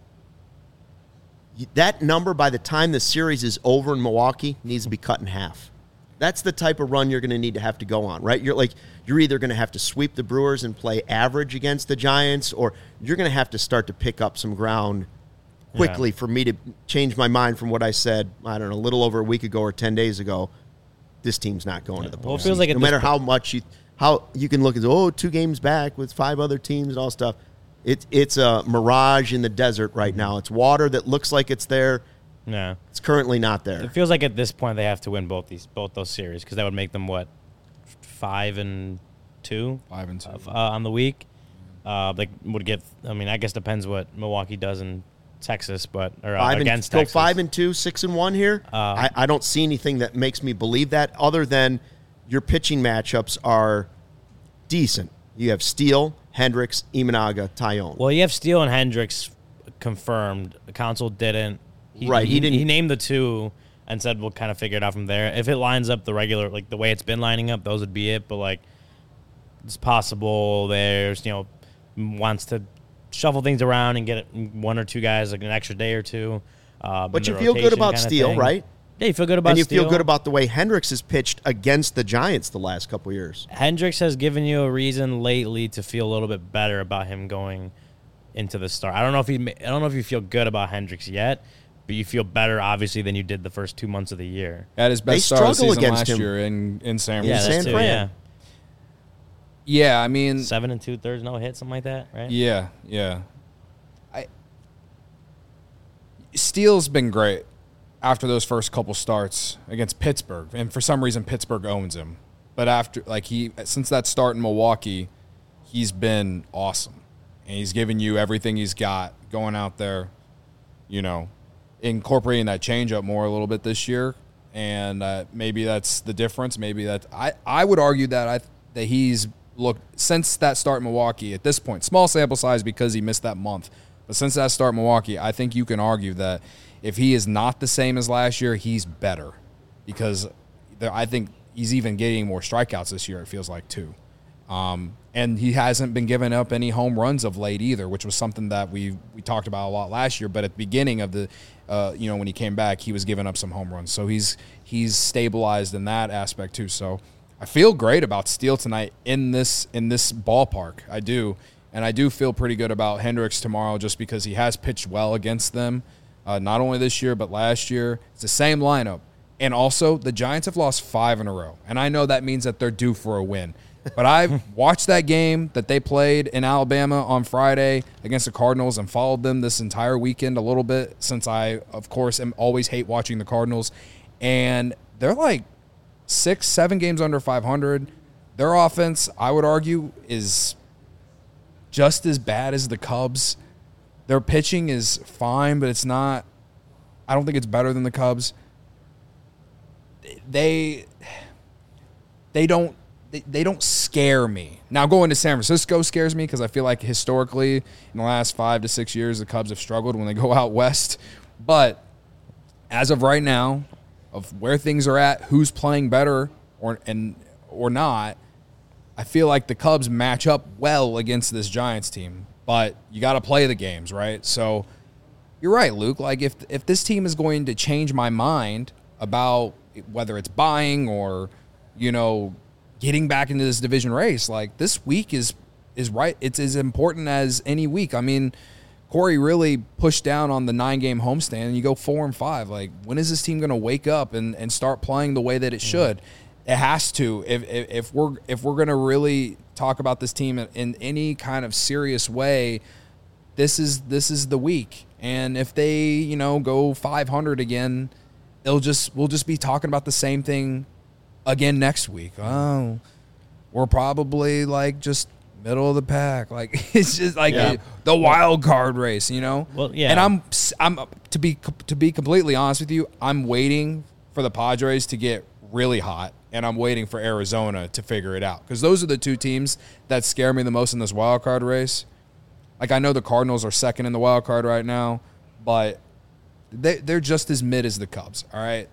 That number, by the time the series is over in Milwaukee, needs to be cut in half. That's the type of run you're going to need to have to go on, right? You're like you're either going to have to sweep the Brewers and play average against the Giants, or you're going to have to start to pick up some ground quickly Yeah. for me to change my mind from what I said, I don't know, a little over a week ago or ten days ago. This team's not going to the postseason. Well, it feels like at no this matter point- how much you how you can look at oh two games back with five other teams and all stuff. It's it's a mirage in the desert right now. It's water that looks like it's there. Yeah. It's currently not there. It feels like at this point they have to win both these both those series because that would make them what five and two Five and two. uh, on the week. Uh, they would get. I mean, I guess depends what Milwaukee does in Texas, but or uh, Five and, against go Texas. five and two, six and one here. Uh, I, I don't see anything that makes me believe that, other than your pitching matchups are decent. You have Steele, Hendricks, Imanaga, Tyone. Well, you have Steele and Hendricks confirmed. The council didn't. He, Right, He, he didn't- He named the two and said we'll kind of figure it out from there. If it lines up the regular, like the way it's been lining up, those would be it. But like, it's possible there's you know wants to shuffle things around and get one or two guys like an extra day or two. Uh, But in you the feel good rotation about kinda Steele, thing. right? Yeah, you feel good about And you Steele. feel good about the way Hendricks has pitched against the Giants the last couple of years. Hendricks has given you a reason lately to feel a little bit better about him going into the start. I don't know if he, I don't know if you feel good about Hendricks yet, but you feel better obviously than you did the first two months of the year. Had his They best start of the struggle season against last him. year in, in San Yeah, San that's Francisco. too, Fran. yeah. Yeah, I mean, Seven and two thirds, no hit, something like that, right? yeah, yeah. I Steele's been great after those first couple starts against Pittsburgh, and for some reason Pittsburgh owns him. But after, like he, since that start in Milwaukee, he's been awesome, and he's given you everything he's got going out there. You know, incorporating that changeup more a little bit this year, and uh, maybe that's the difference. Maybe that I, I would argue that I that he's looked since that start in Milwaukee at this point, small sample size because he missed that month, but since that start in Milwaukee, I think you can argue that if he is not the same as last year, he's better because there, I think he's even getting more strikeouts this year. It feels like too. Um, and he hasn't been giving up any home runs of late either, which was something that we we talked about a lot last year. But at the beginning of the, uh, you know, when he came back, he was giving up some home runs. So he's he's stabilized in that aspect too. So I feel great about Steele tonight in this in this ballpark. I do, and I do feel pretty good about Hendricks tomorrow just because he has pitched well against them, uh, not only this year but last year. It's the same lineup, and also the Giants have lost five in a row, and I know that means that they're due for a win. But I've watched that game that they played in Alabama on Friday against the Cardinals and followed them this entire weekend a little bit since I, of course, am always hate watching the Cardinals. And they're like six, seven games under five hundred. Their offense, I would argue, is just as bad as the Cubs. Their pitching is fine, but it's not – I don't think it's better than the Cubs. They they don't – They, they don't scare me. Now, going to San Francisco scares me because I feel like historically in the last five to six years, the Cubs have struggled when they go out west. But as of right now, of where things are at, who's playing better or and or not, I feel like the Cubs match up well against this Giants team. But you got to play the games, right? So you're right, Luke. Like if if this team is going to change my mind about whether it's buying or, you know, getting back into this division race, like this week is is right. It's as important as any week. I mean, Corey really pushed down on the nine-game homestand, and you go four and five. Like, when is this team going to wake up and, and start playing the way that it should? Mm-hmm. It has to. If, if if we're if we're going to really talk about this team in, in any kind of serious way, this is this is the week. And if they you know go five hundred again, it'll just we'll just be talking about the same thing again next week. Oh, we're probably like just middle of the pack. Like it's just like Yeah. the, the wild card race, you know. Well, yeah. And I'm I'm to be to be completely honest with you, I'm waiting for the Padres to get really hot, and I'm waiting for Arizona to figure it out because those are the two teams that scare me the most in this wild card race. Like I know the Cardinals are second in the wild card right now, but they they're just as mid as the Cubs. All right,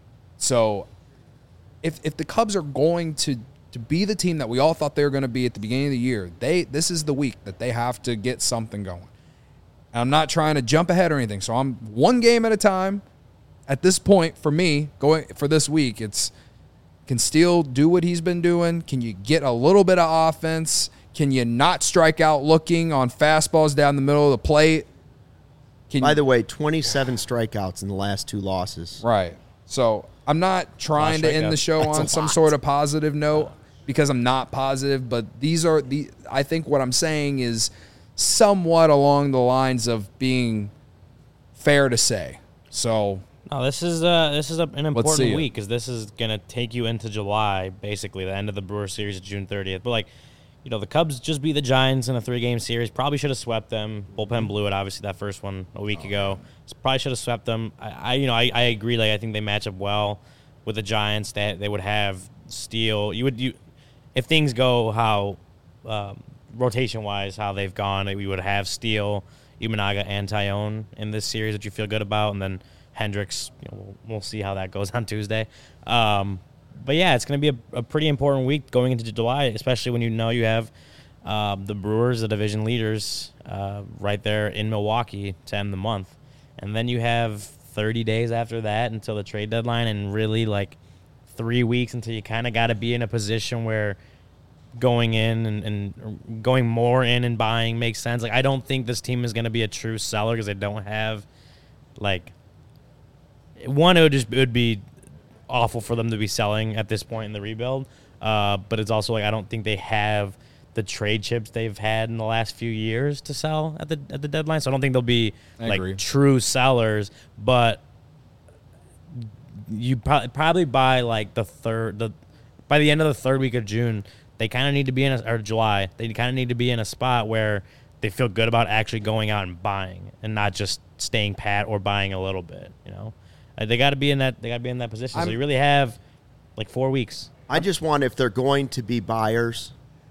so. If if the Cubs are going to, to be the team that we all thought they were going to be at the beginning of the year, they this is the week that they have to get something going. And I'm not trying to jump ahead or anything, so I'm one game at a time. At this point, for me, going for this week, it's can Steele do what he's been doing? Can you get a little bit of offense? Can you not strike out looking on fastballs down the middle of the plate? Can By you, the way, twenty-seven strikeouts in the last two losses. right. So I'm not trying to end the show That's on a some lot. sort of positive note because I'm not positive, but these are the I think what I'm saying is somewhat along the lines of being fair to say. So No, this is uh, this is a, an see important it. week because this is gonna take you into July, basically the end of the Brewers series, June thirtieth. But like, you know, the Cubs just beat the Giants in a three-game series. Probably should have swept them. Bullpen blew it, obviously, that first one a week ago. So probably should have swept them. I, I you know, I, I agree. Like, I think they match up well with the Giants. That they would have Steele. You would you, if things go how um, rotation-wise, how they've gone. We would have Steele, Imanaga, and Tyone in this series that you feel good about, and then Hendricks, you know, we'll, we'll see how that goes on Tuesday. Um, but, yeah, it's going to be a, a pretty important week going into July, especially when you know you have um, the Brewers, the division leaders, uh, right there in Milwaukee to end the month. And then you have thirty days after that until the trade deadline, and really, like, three weeks until you kind of got to be in a position where going in and, and going more in and buying makes sense. Like, I don't think this team is going to be a true seller because they don't have, like, one, it would just it would be awful for them to be selling at this point in the rebuild. Uh, but it's also like I don't think they have the trade chips they've had in the last few years to sell at the at the deadline. So I don't think they'll be I like agree. true sellers. But you pro- probably by like the third, the by the end of the third week of June, they kind of need to be in a, or July. They kind of need to be in a spot where they feel good about actually going out and buying, and not just staying pat or buying a little bit. You know, uh, they got to be in that. They got to be in that position. I'm, so you really have like four weeks. I just want, if they're going to be buyers,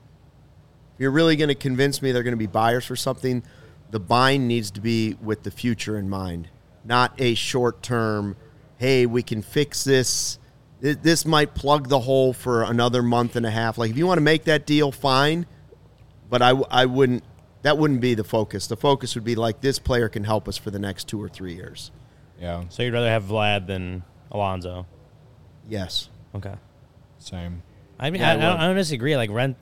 if you're really going to convince me they're going to be buyers for something, the buying needs to be with the future in mind, not a short-term, hey, we can fix this. This might plug the hole for another month and a half. Like, if you want to make that deal, fine, but I, I wouldn't, that wouldn't be the focus. The focus would be like, this player can help us for the next two or three years. Yeah. So you'd rather have Vlad than Alonso? Yes. Okay. Same. I mean, Yeah, I, I I, don't, would. I don't disagree. Like, rent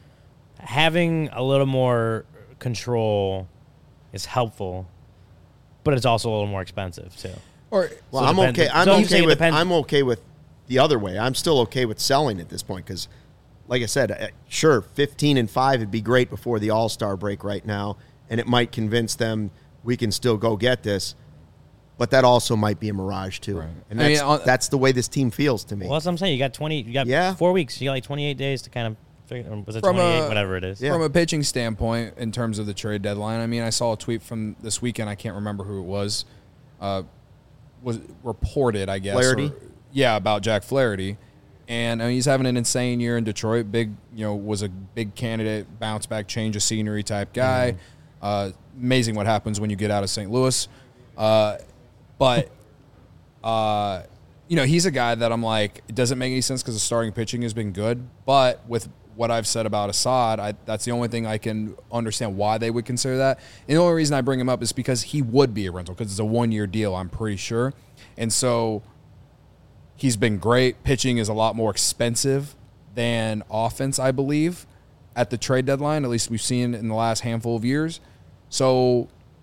having a little more control is helpful, but it's also a little more expensive too. Or Well, So it I'm depends- okay. I'm so I'm okay saying it with. depends- I'm okay with the other way. I'm still okay with selling at this point because, like I said, uh, sure, fifteen and five would be great before the All Star break right now, and it might convince them we can still go get this. But that also might be a mirage too, Right. and I mean, that's, on- that's the way this team feels to me. Well, that's what I'm saying. You got twenty. You got Yeah. four weeks. You got like twenty-eight days to kind of figure. Or was it From twenty-eight? a- Whatever it is. Yeah. From a pitching standpoint, in terms of the trade deadline, I mean, I saw a tweet from this weekend. I can't remember who it was. Uh, was reported, I guess. Flaherty? or- yeah, about Jack Flaherty, and I mean, he's having an insane year in Detroit. Big, you know, was a big candidate, bounce back, change of scenery type guy. Mm-hmm. Uh, amazing what happens when you get out of Saint Louis, uh, but. Uh, you know, he's a guy that I'm like, it doesn't make any sense because the starting pitching has been good. But with what I've said about Assad, I, that's the only thing I can understand why they would consider that. And the only reason I bring him up is because he would be a rental because it's a one-year deal, I'm pretty sure. And so he's been great. Pitching is a lot more expensive than offense, I believe, at the trade deadline. At least we've seen in the last handful of years. So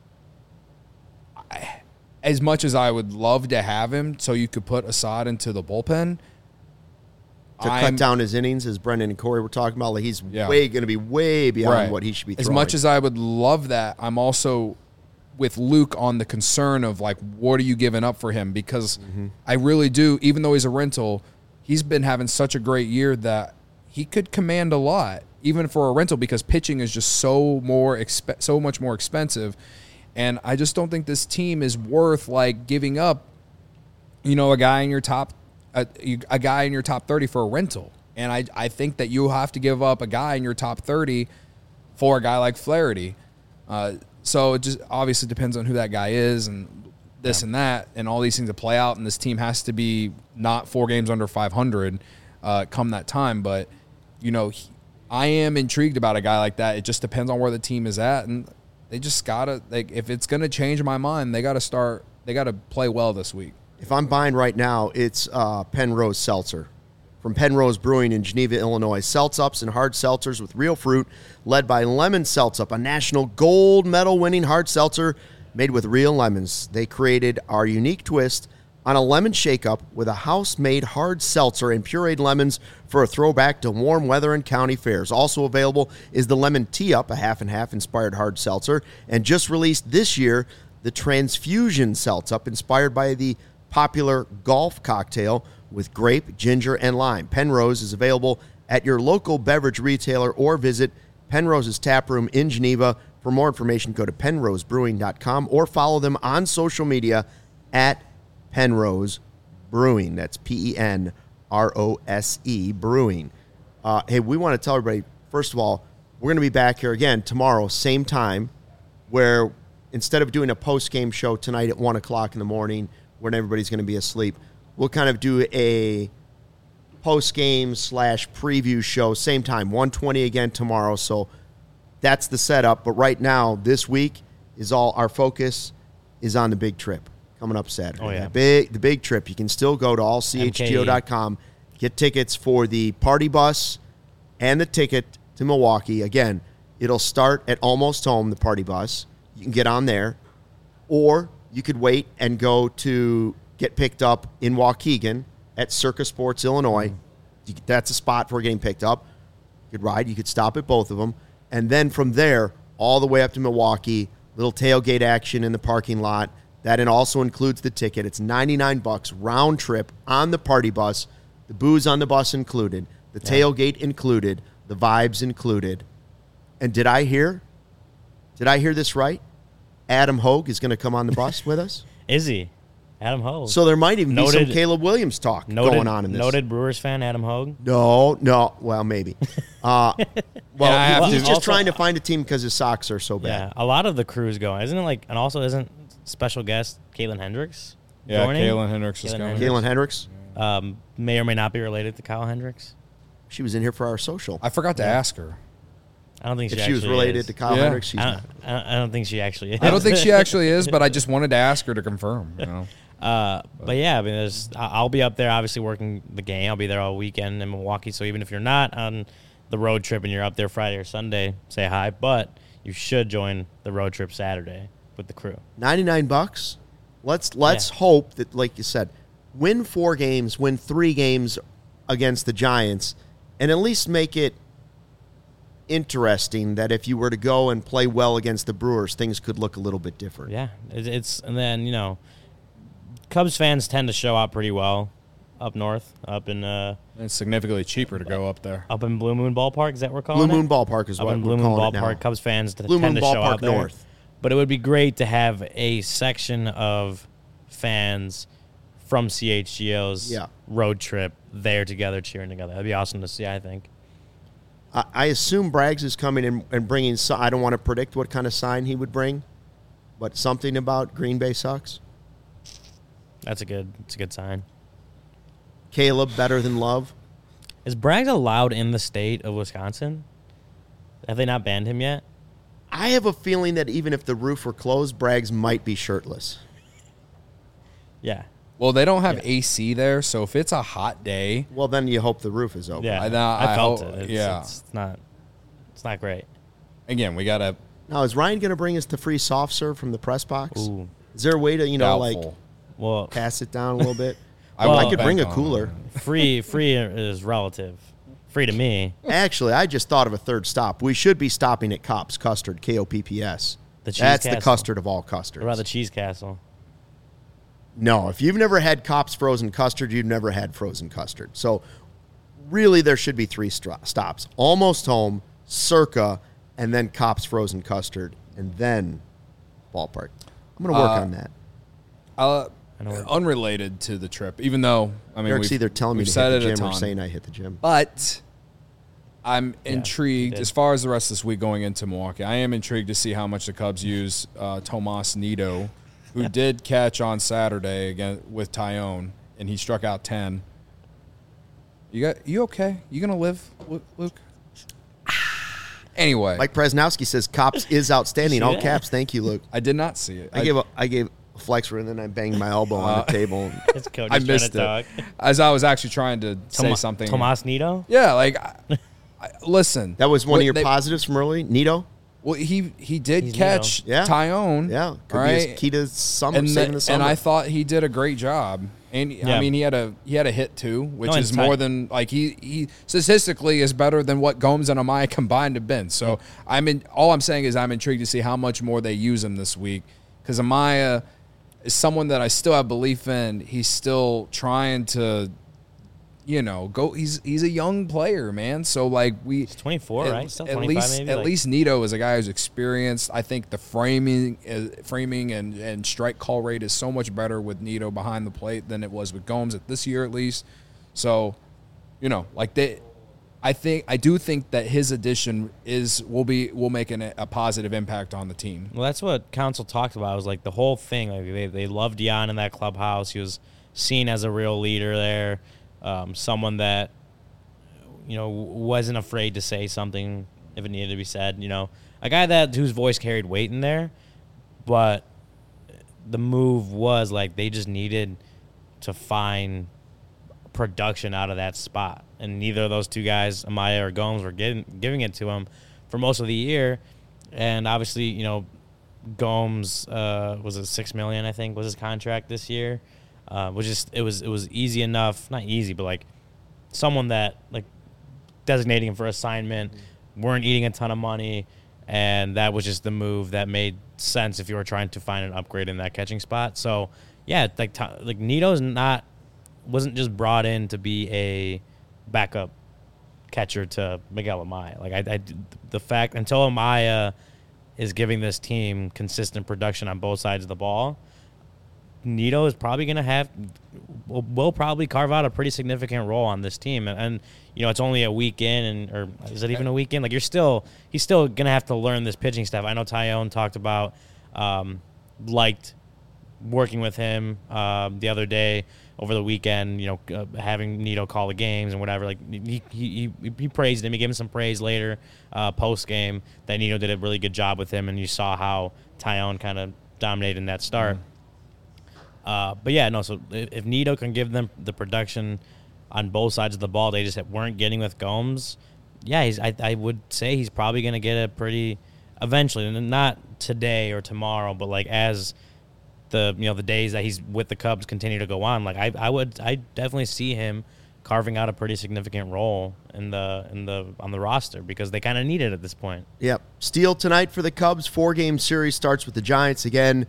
I, as much as I would love to have him so you could put Assad into the bullpen, to I'm- cut down his innings, as Brendan and Corey were talking about, like he's Yeah. way going to be way beyond Right. what he should be throwing. As much as I would love that, I'm also with Luke on the concern of like, what are you giving up for him? Because Mm-hmm. I really do, even though he's a rental, he's been having such a great year that he could command a lot, even for a rental, because pitching is just so more exp- so much more expensive. And I just don't think this team is worth like giving up, you know, a guy in your top, a, a guy in your top thirty for a rental. And I, I think that you have to give up a guy in your top thirty for a guy like Flaherty. Uh, so it just obviously depends on who that guy is and this and that and all these things to play out. And this team has to be not four games under five hundred uh, come that time. But, you know, he, I am intrigued about a guy like that. It just depends on where the team is at. And they just got to, like, if it's going to change my mind, they got to start, they got to play well this week. If I'm buying right now, it's uh, Penrose Seltzer. From Penrose Brewing in Geneva, Illinois. Seltzups and hard seltzers with real fruit, led by Lemon Seltzup, a national gold medal winning hard seltzer made with real lemons. They created our unique twist on a lemon shake-up with a house-made hard seltzer and pureed lemons for a throwback to warm weather and county fairs. Also available is the Lemon Tea-Up, a half-and-half inspired hard seltzer, and just released this year, the Transfusion Seltzup, inspired by the popular golf cocktail with grape, ginger, and lime. Penrose is available at your local beverage retailer or visit Penrose's Tap Room in Geneva. For more information, go to penrose brewing dot com or follow them on social media at Penrose Brewing. That's P E N R O S E Brewing. Uh, hey, we want to tell everybody, first of all, we're going to be back here again tomorrow, same time, where instead of doing a post-game show tonight at one o'clock in the morning when everybody's going to be asleep, we'll kind of do a post-game slash preview show, same time, one twenty again tomorrow. So that's the setup. But right now, this week, is all our focus is on the big trip coming up Saturday. Oh, yeah. The big, the big trip. You can still go to all c h g o dot com, get tickets for the party bus and the ticket to Milwaukee. Again, it'll start at Almost Home, the party bus. You can get on there. Or you could wait and go to get picked up in Waukegan at Circa Sports, Illinois. You, that's a spot for getting picked up. You could ride. You could stop at both of them. And then from there, all the way up to Milwaukee, little tailgate action in the parking lot. That and also includes the ticket. It's ninety-nine bucks round trip on the party bus. The booze on the bus included. The Yeah. tailgate included. The vibes included. And did I hear? Did I hear this right? Adam Hogue is going to come on the bus with us. Is he? Adam Hogue. So there might even Noted- be some Caleb Williams talk noted, going on in this. Noted Brewers fan, Adam Hogue. No, no. Well, maybe. Uh, well, I have he- he's to- just also- trying to find a team because his socks are so Yeah, bad. a lot of the crew's going, isn't it? Like, and also isn't special guest Caitlin Hendricks Yeah, joining? Kalen Hendricks is Kalen going. Hendricks. Caitlin Hendricks, Um, may or may not be related to Kyle Hendricks. she was in here for our social. I forgot to ask her. I don't think If she she was actually related is. to Kyle Yeah. Hendricks, she's I not. don't, I don't- I don't think she actually is. I don't think she actually is, but I just wanted to ask her to confirm. You know, Uh, but yeah, I mean, there's. I- I'll be up there, obviously working the game. I'll be there all weekend in Milwaukee. So even if you're not on the road trip and you're up there Friday or Sunday, say hi. But you should join the road trip Saturday with the crew. ninety-nine bucks. Let's let's Yeah. hope that, like you said, win four games, win three games against the Giants, and at least make it interesting that if you were to go and play well against the Brewers, things could look a little bit different. Yeah, it, it's and then you know, Cubs fans tend to show up pretty well up north, up in uh, it's significantly cheaper to go up there. up in Blue Moon Ballpark. Is that what we're calling Blue it? Moon Ballpark is Up what in we're Blue Moon calling it now. Ballpark, Cubs fans t- Blue tend Moon to show Ballpark up there. North. But it would be great to have a section of fans from C H G O's Yeah. road trip there together, cheering together. That'd be awesome to see, I think. I, I assume Braggs is coming in and bringing. So, I don't want to predict what kind of sign he would bring, but something about Green Bay sucks. That's a good. It's a good sign. Caleb better than Love. Is Braggs allowed in the state of Wisconsin? Have they not banned him yet? I have a feeling that even if the roof were closed, Braggs might be shirtless. Yeah. Well, they don't have Yeah. A C there, so if it's a hot day, Well, then you hope the roof is open. Yeah. I- I, nah, I felt hope- it. It's, yeah. It's not. It's not great. again, we gotta Now, is Ryan going to bring us the free soft serve from the press box? Ooh. Is there a way to, you know, like doubtful. Well, pass it down a little bit? I I, won't could bring a bank on cooler. free. Free is relative. Free to me. Actually, I just thought of a third stop. We should be stopping at Kopp's Custard, K O P P S. The cheese That's the castle. custard of all custards. What about the Cheese Castle? No, if you've never had Kopp's frozen custard, you've never had frozen custard. So really there should be three stra- stops. Almost Home, Circa, and then Kopp's frozen custard, and then Ballpark. I'm going to work Uh, on that. Uh, I know where- unrelated to the trip, even though I mean Eric's we've, either telling me we've to said hit the it a gym or ton. saying I hit the gym. But I'm Yeah, intrigued you did. as far as the rest of this week going into Milwaukee. I am intrigued to see how much the Cubs use uh, Tomas Nido, who did catch on Saturday again with Tyone, and he struck out ten. You got you okay? You gonna live, Lu- Luke? Anyway, Mike Presnowski says Kopp's is outstanding. See All that? caps. Thank you, Luke. I did not see it. I, gave a I gave a flexor and then I banged my elbow on the table. It's Cody's I trying missed to talk. it as I was actually trying to say Toma- something. Tomas Nido? Yeah, like I, I, listen. That was one of What your they- positives from early, Nito. Well, he he did He's catch Nito. Yeah. Tyone. Yeah, could right? be his key to summer, and, saving the- the summer. and I thought he did a great job. And Yeah. I mean, he had a he had a hit too, which No, is and Ty- more than like he he statistically is better than what Gomes and Amaya combined have been. So I'm in. All I'm saying is I'm intrigued to see how much more they use him this week because Amaya is someone that I still have belief in. He's still trying to, you know, go. He's he's a young player, man. So like we. He's twenty-four, At, right? Still at twenty-five least, maybe? at Like- least Nito is a guy who's experienced. I think the framing, uh, framing and, and strike call rate is so much better with Nito behind the plate than it was with Gomes at this year, at least. So, you know, like they, I think I do think that his addition is will be will make an, a positive impact on the team. Well, that's what Council talked about. It was like the whole thing. Like they they loved Jan in that clubhouse. He was seen as a real leader there, um, someone that you know wasn't afraid to say something if it needed to be said. You know, a guy that whose voice carried weight in there. But the move was like they just needed to find production out of that spot, and neither of those two guys, Amaya or Gomes, were getting giving it to him for most of the year. And obviously, you know, Gomes uh, was it six million, I think, was his contract this year, uh, which is it was it was easy enough, not easy, but like someone that like designating him for assignment, weren't eating a ton of money, and that was just the move that made sense if you were trying to find an upgrade in that catching spot. So yeah, like like Nito's not. wasn't just brought in to be a backup catcher to Miguel Amaya. Like I, I, the fact until Amaya is giving this team consistent production on both sides of the ball, Nito is probably going to have will, will probably carve out a pretty significant role on this team. And, and you know, it's only a week in, and or is it even a week in? Like you're still he's still going to have to learn this pitching stuff. I know Tyone talked about um, liked working with him um, the other day. Over the weekend, you know, uh, having Nito call the games and whatever, like he he, he, he praised him. He gave him some praise later, uh, post game, that Nito did a really good job with him, and you saw how Tyone kind of dominated in that start. Mm-hmm. Uh, but yeah, no. So if, if Nito can give them the production on both sides of the ball, they just weren't getting with Gomes. Yeah, he's. I, I would say he's probably going to get a pretty eventually, and not today or tomorrow, but like as. The you know the days that he's with the Cubs continue to go on, like I I would I definitely see him carving out a pretty significant role in the in the on the roster because they kind of need it at this point. Yep. Steele tonight for the Cubs. Four game series starts with the Giants again.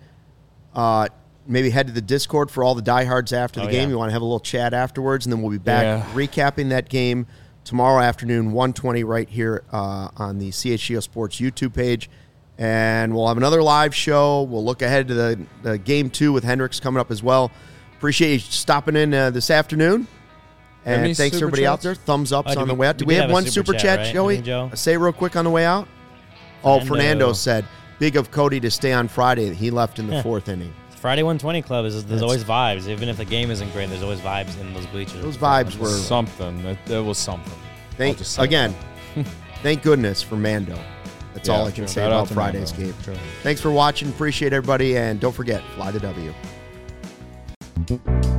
Uh, maybe head to the Discord for all the diehards after the oh, game. Yeah. You want to have a little chat afterwards, and then we'll be back Yeah. recapping that game tomorrow afternoon, one twenty, right here uh, on the C H G O Sports YouTube page. And we'll have another live show. We'll look ahead to the, the game two with Hendricks coming up as well. Appreciate you stopping in uh, this afternoon. And Any thanks to super everybody chats? out there. Thumbs ups Oh, did on the we- way out. we Do we did have have a one super super chat, chat, right? Joey? I think, Joe? Say real quick on the way out. Oh, Fernando. Fernando said, big of Cody to stay on Friday. He left in the fourth inning. Friday one twenty Club is there's That's- always vibes. Even if the game isn't great, there's always vibes in those bleachers. Those vibes were, Something. It, it was something. thank, I'll just say again, thank goodness for Mando. That's Yeah, all I can true. say Shout out about to Friday's Mando. game. True. Thanks for watching. Appreciate everybody. And don't forget, fly the W.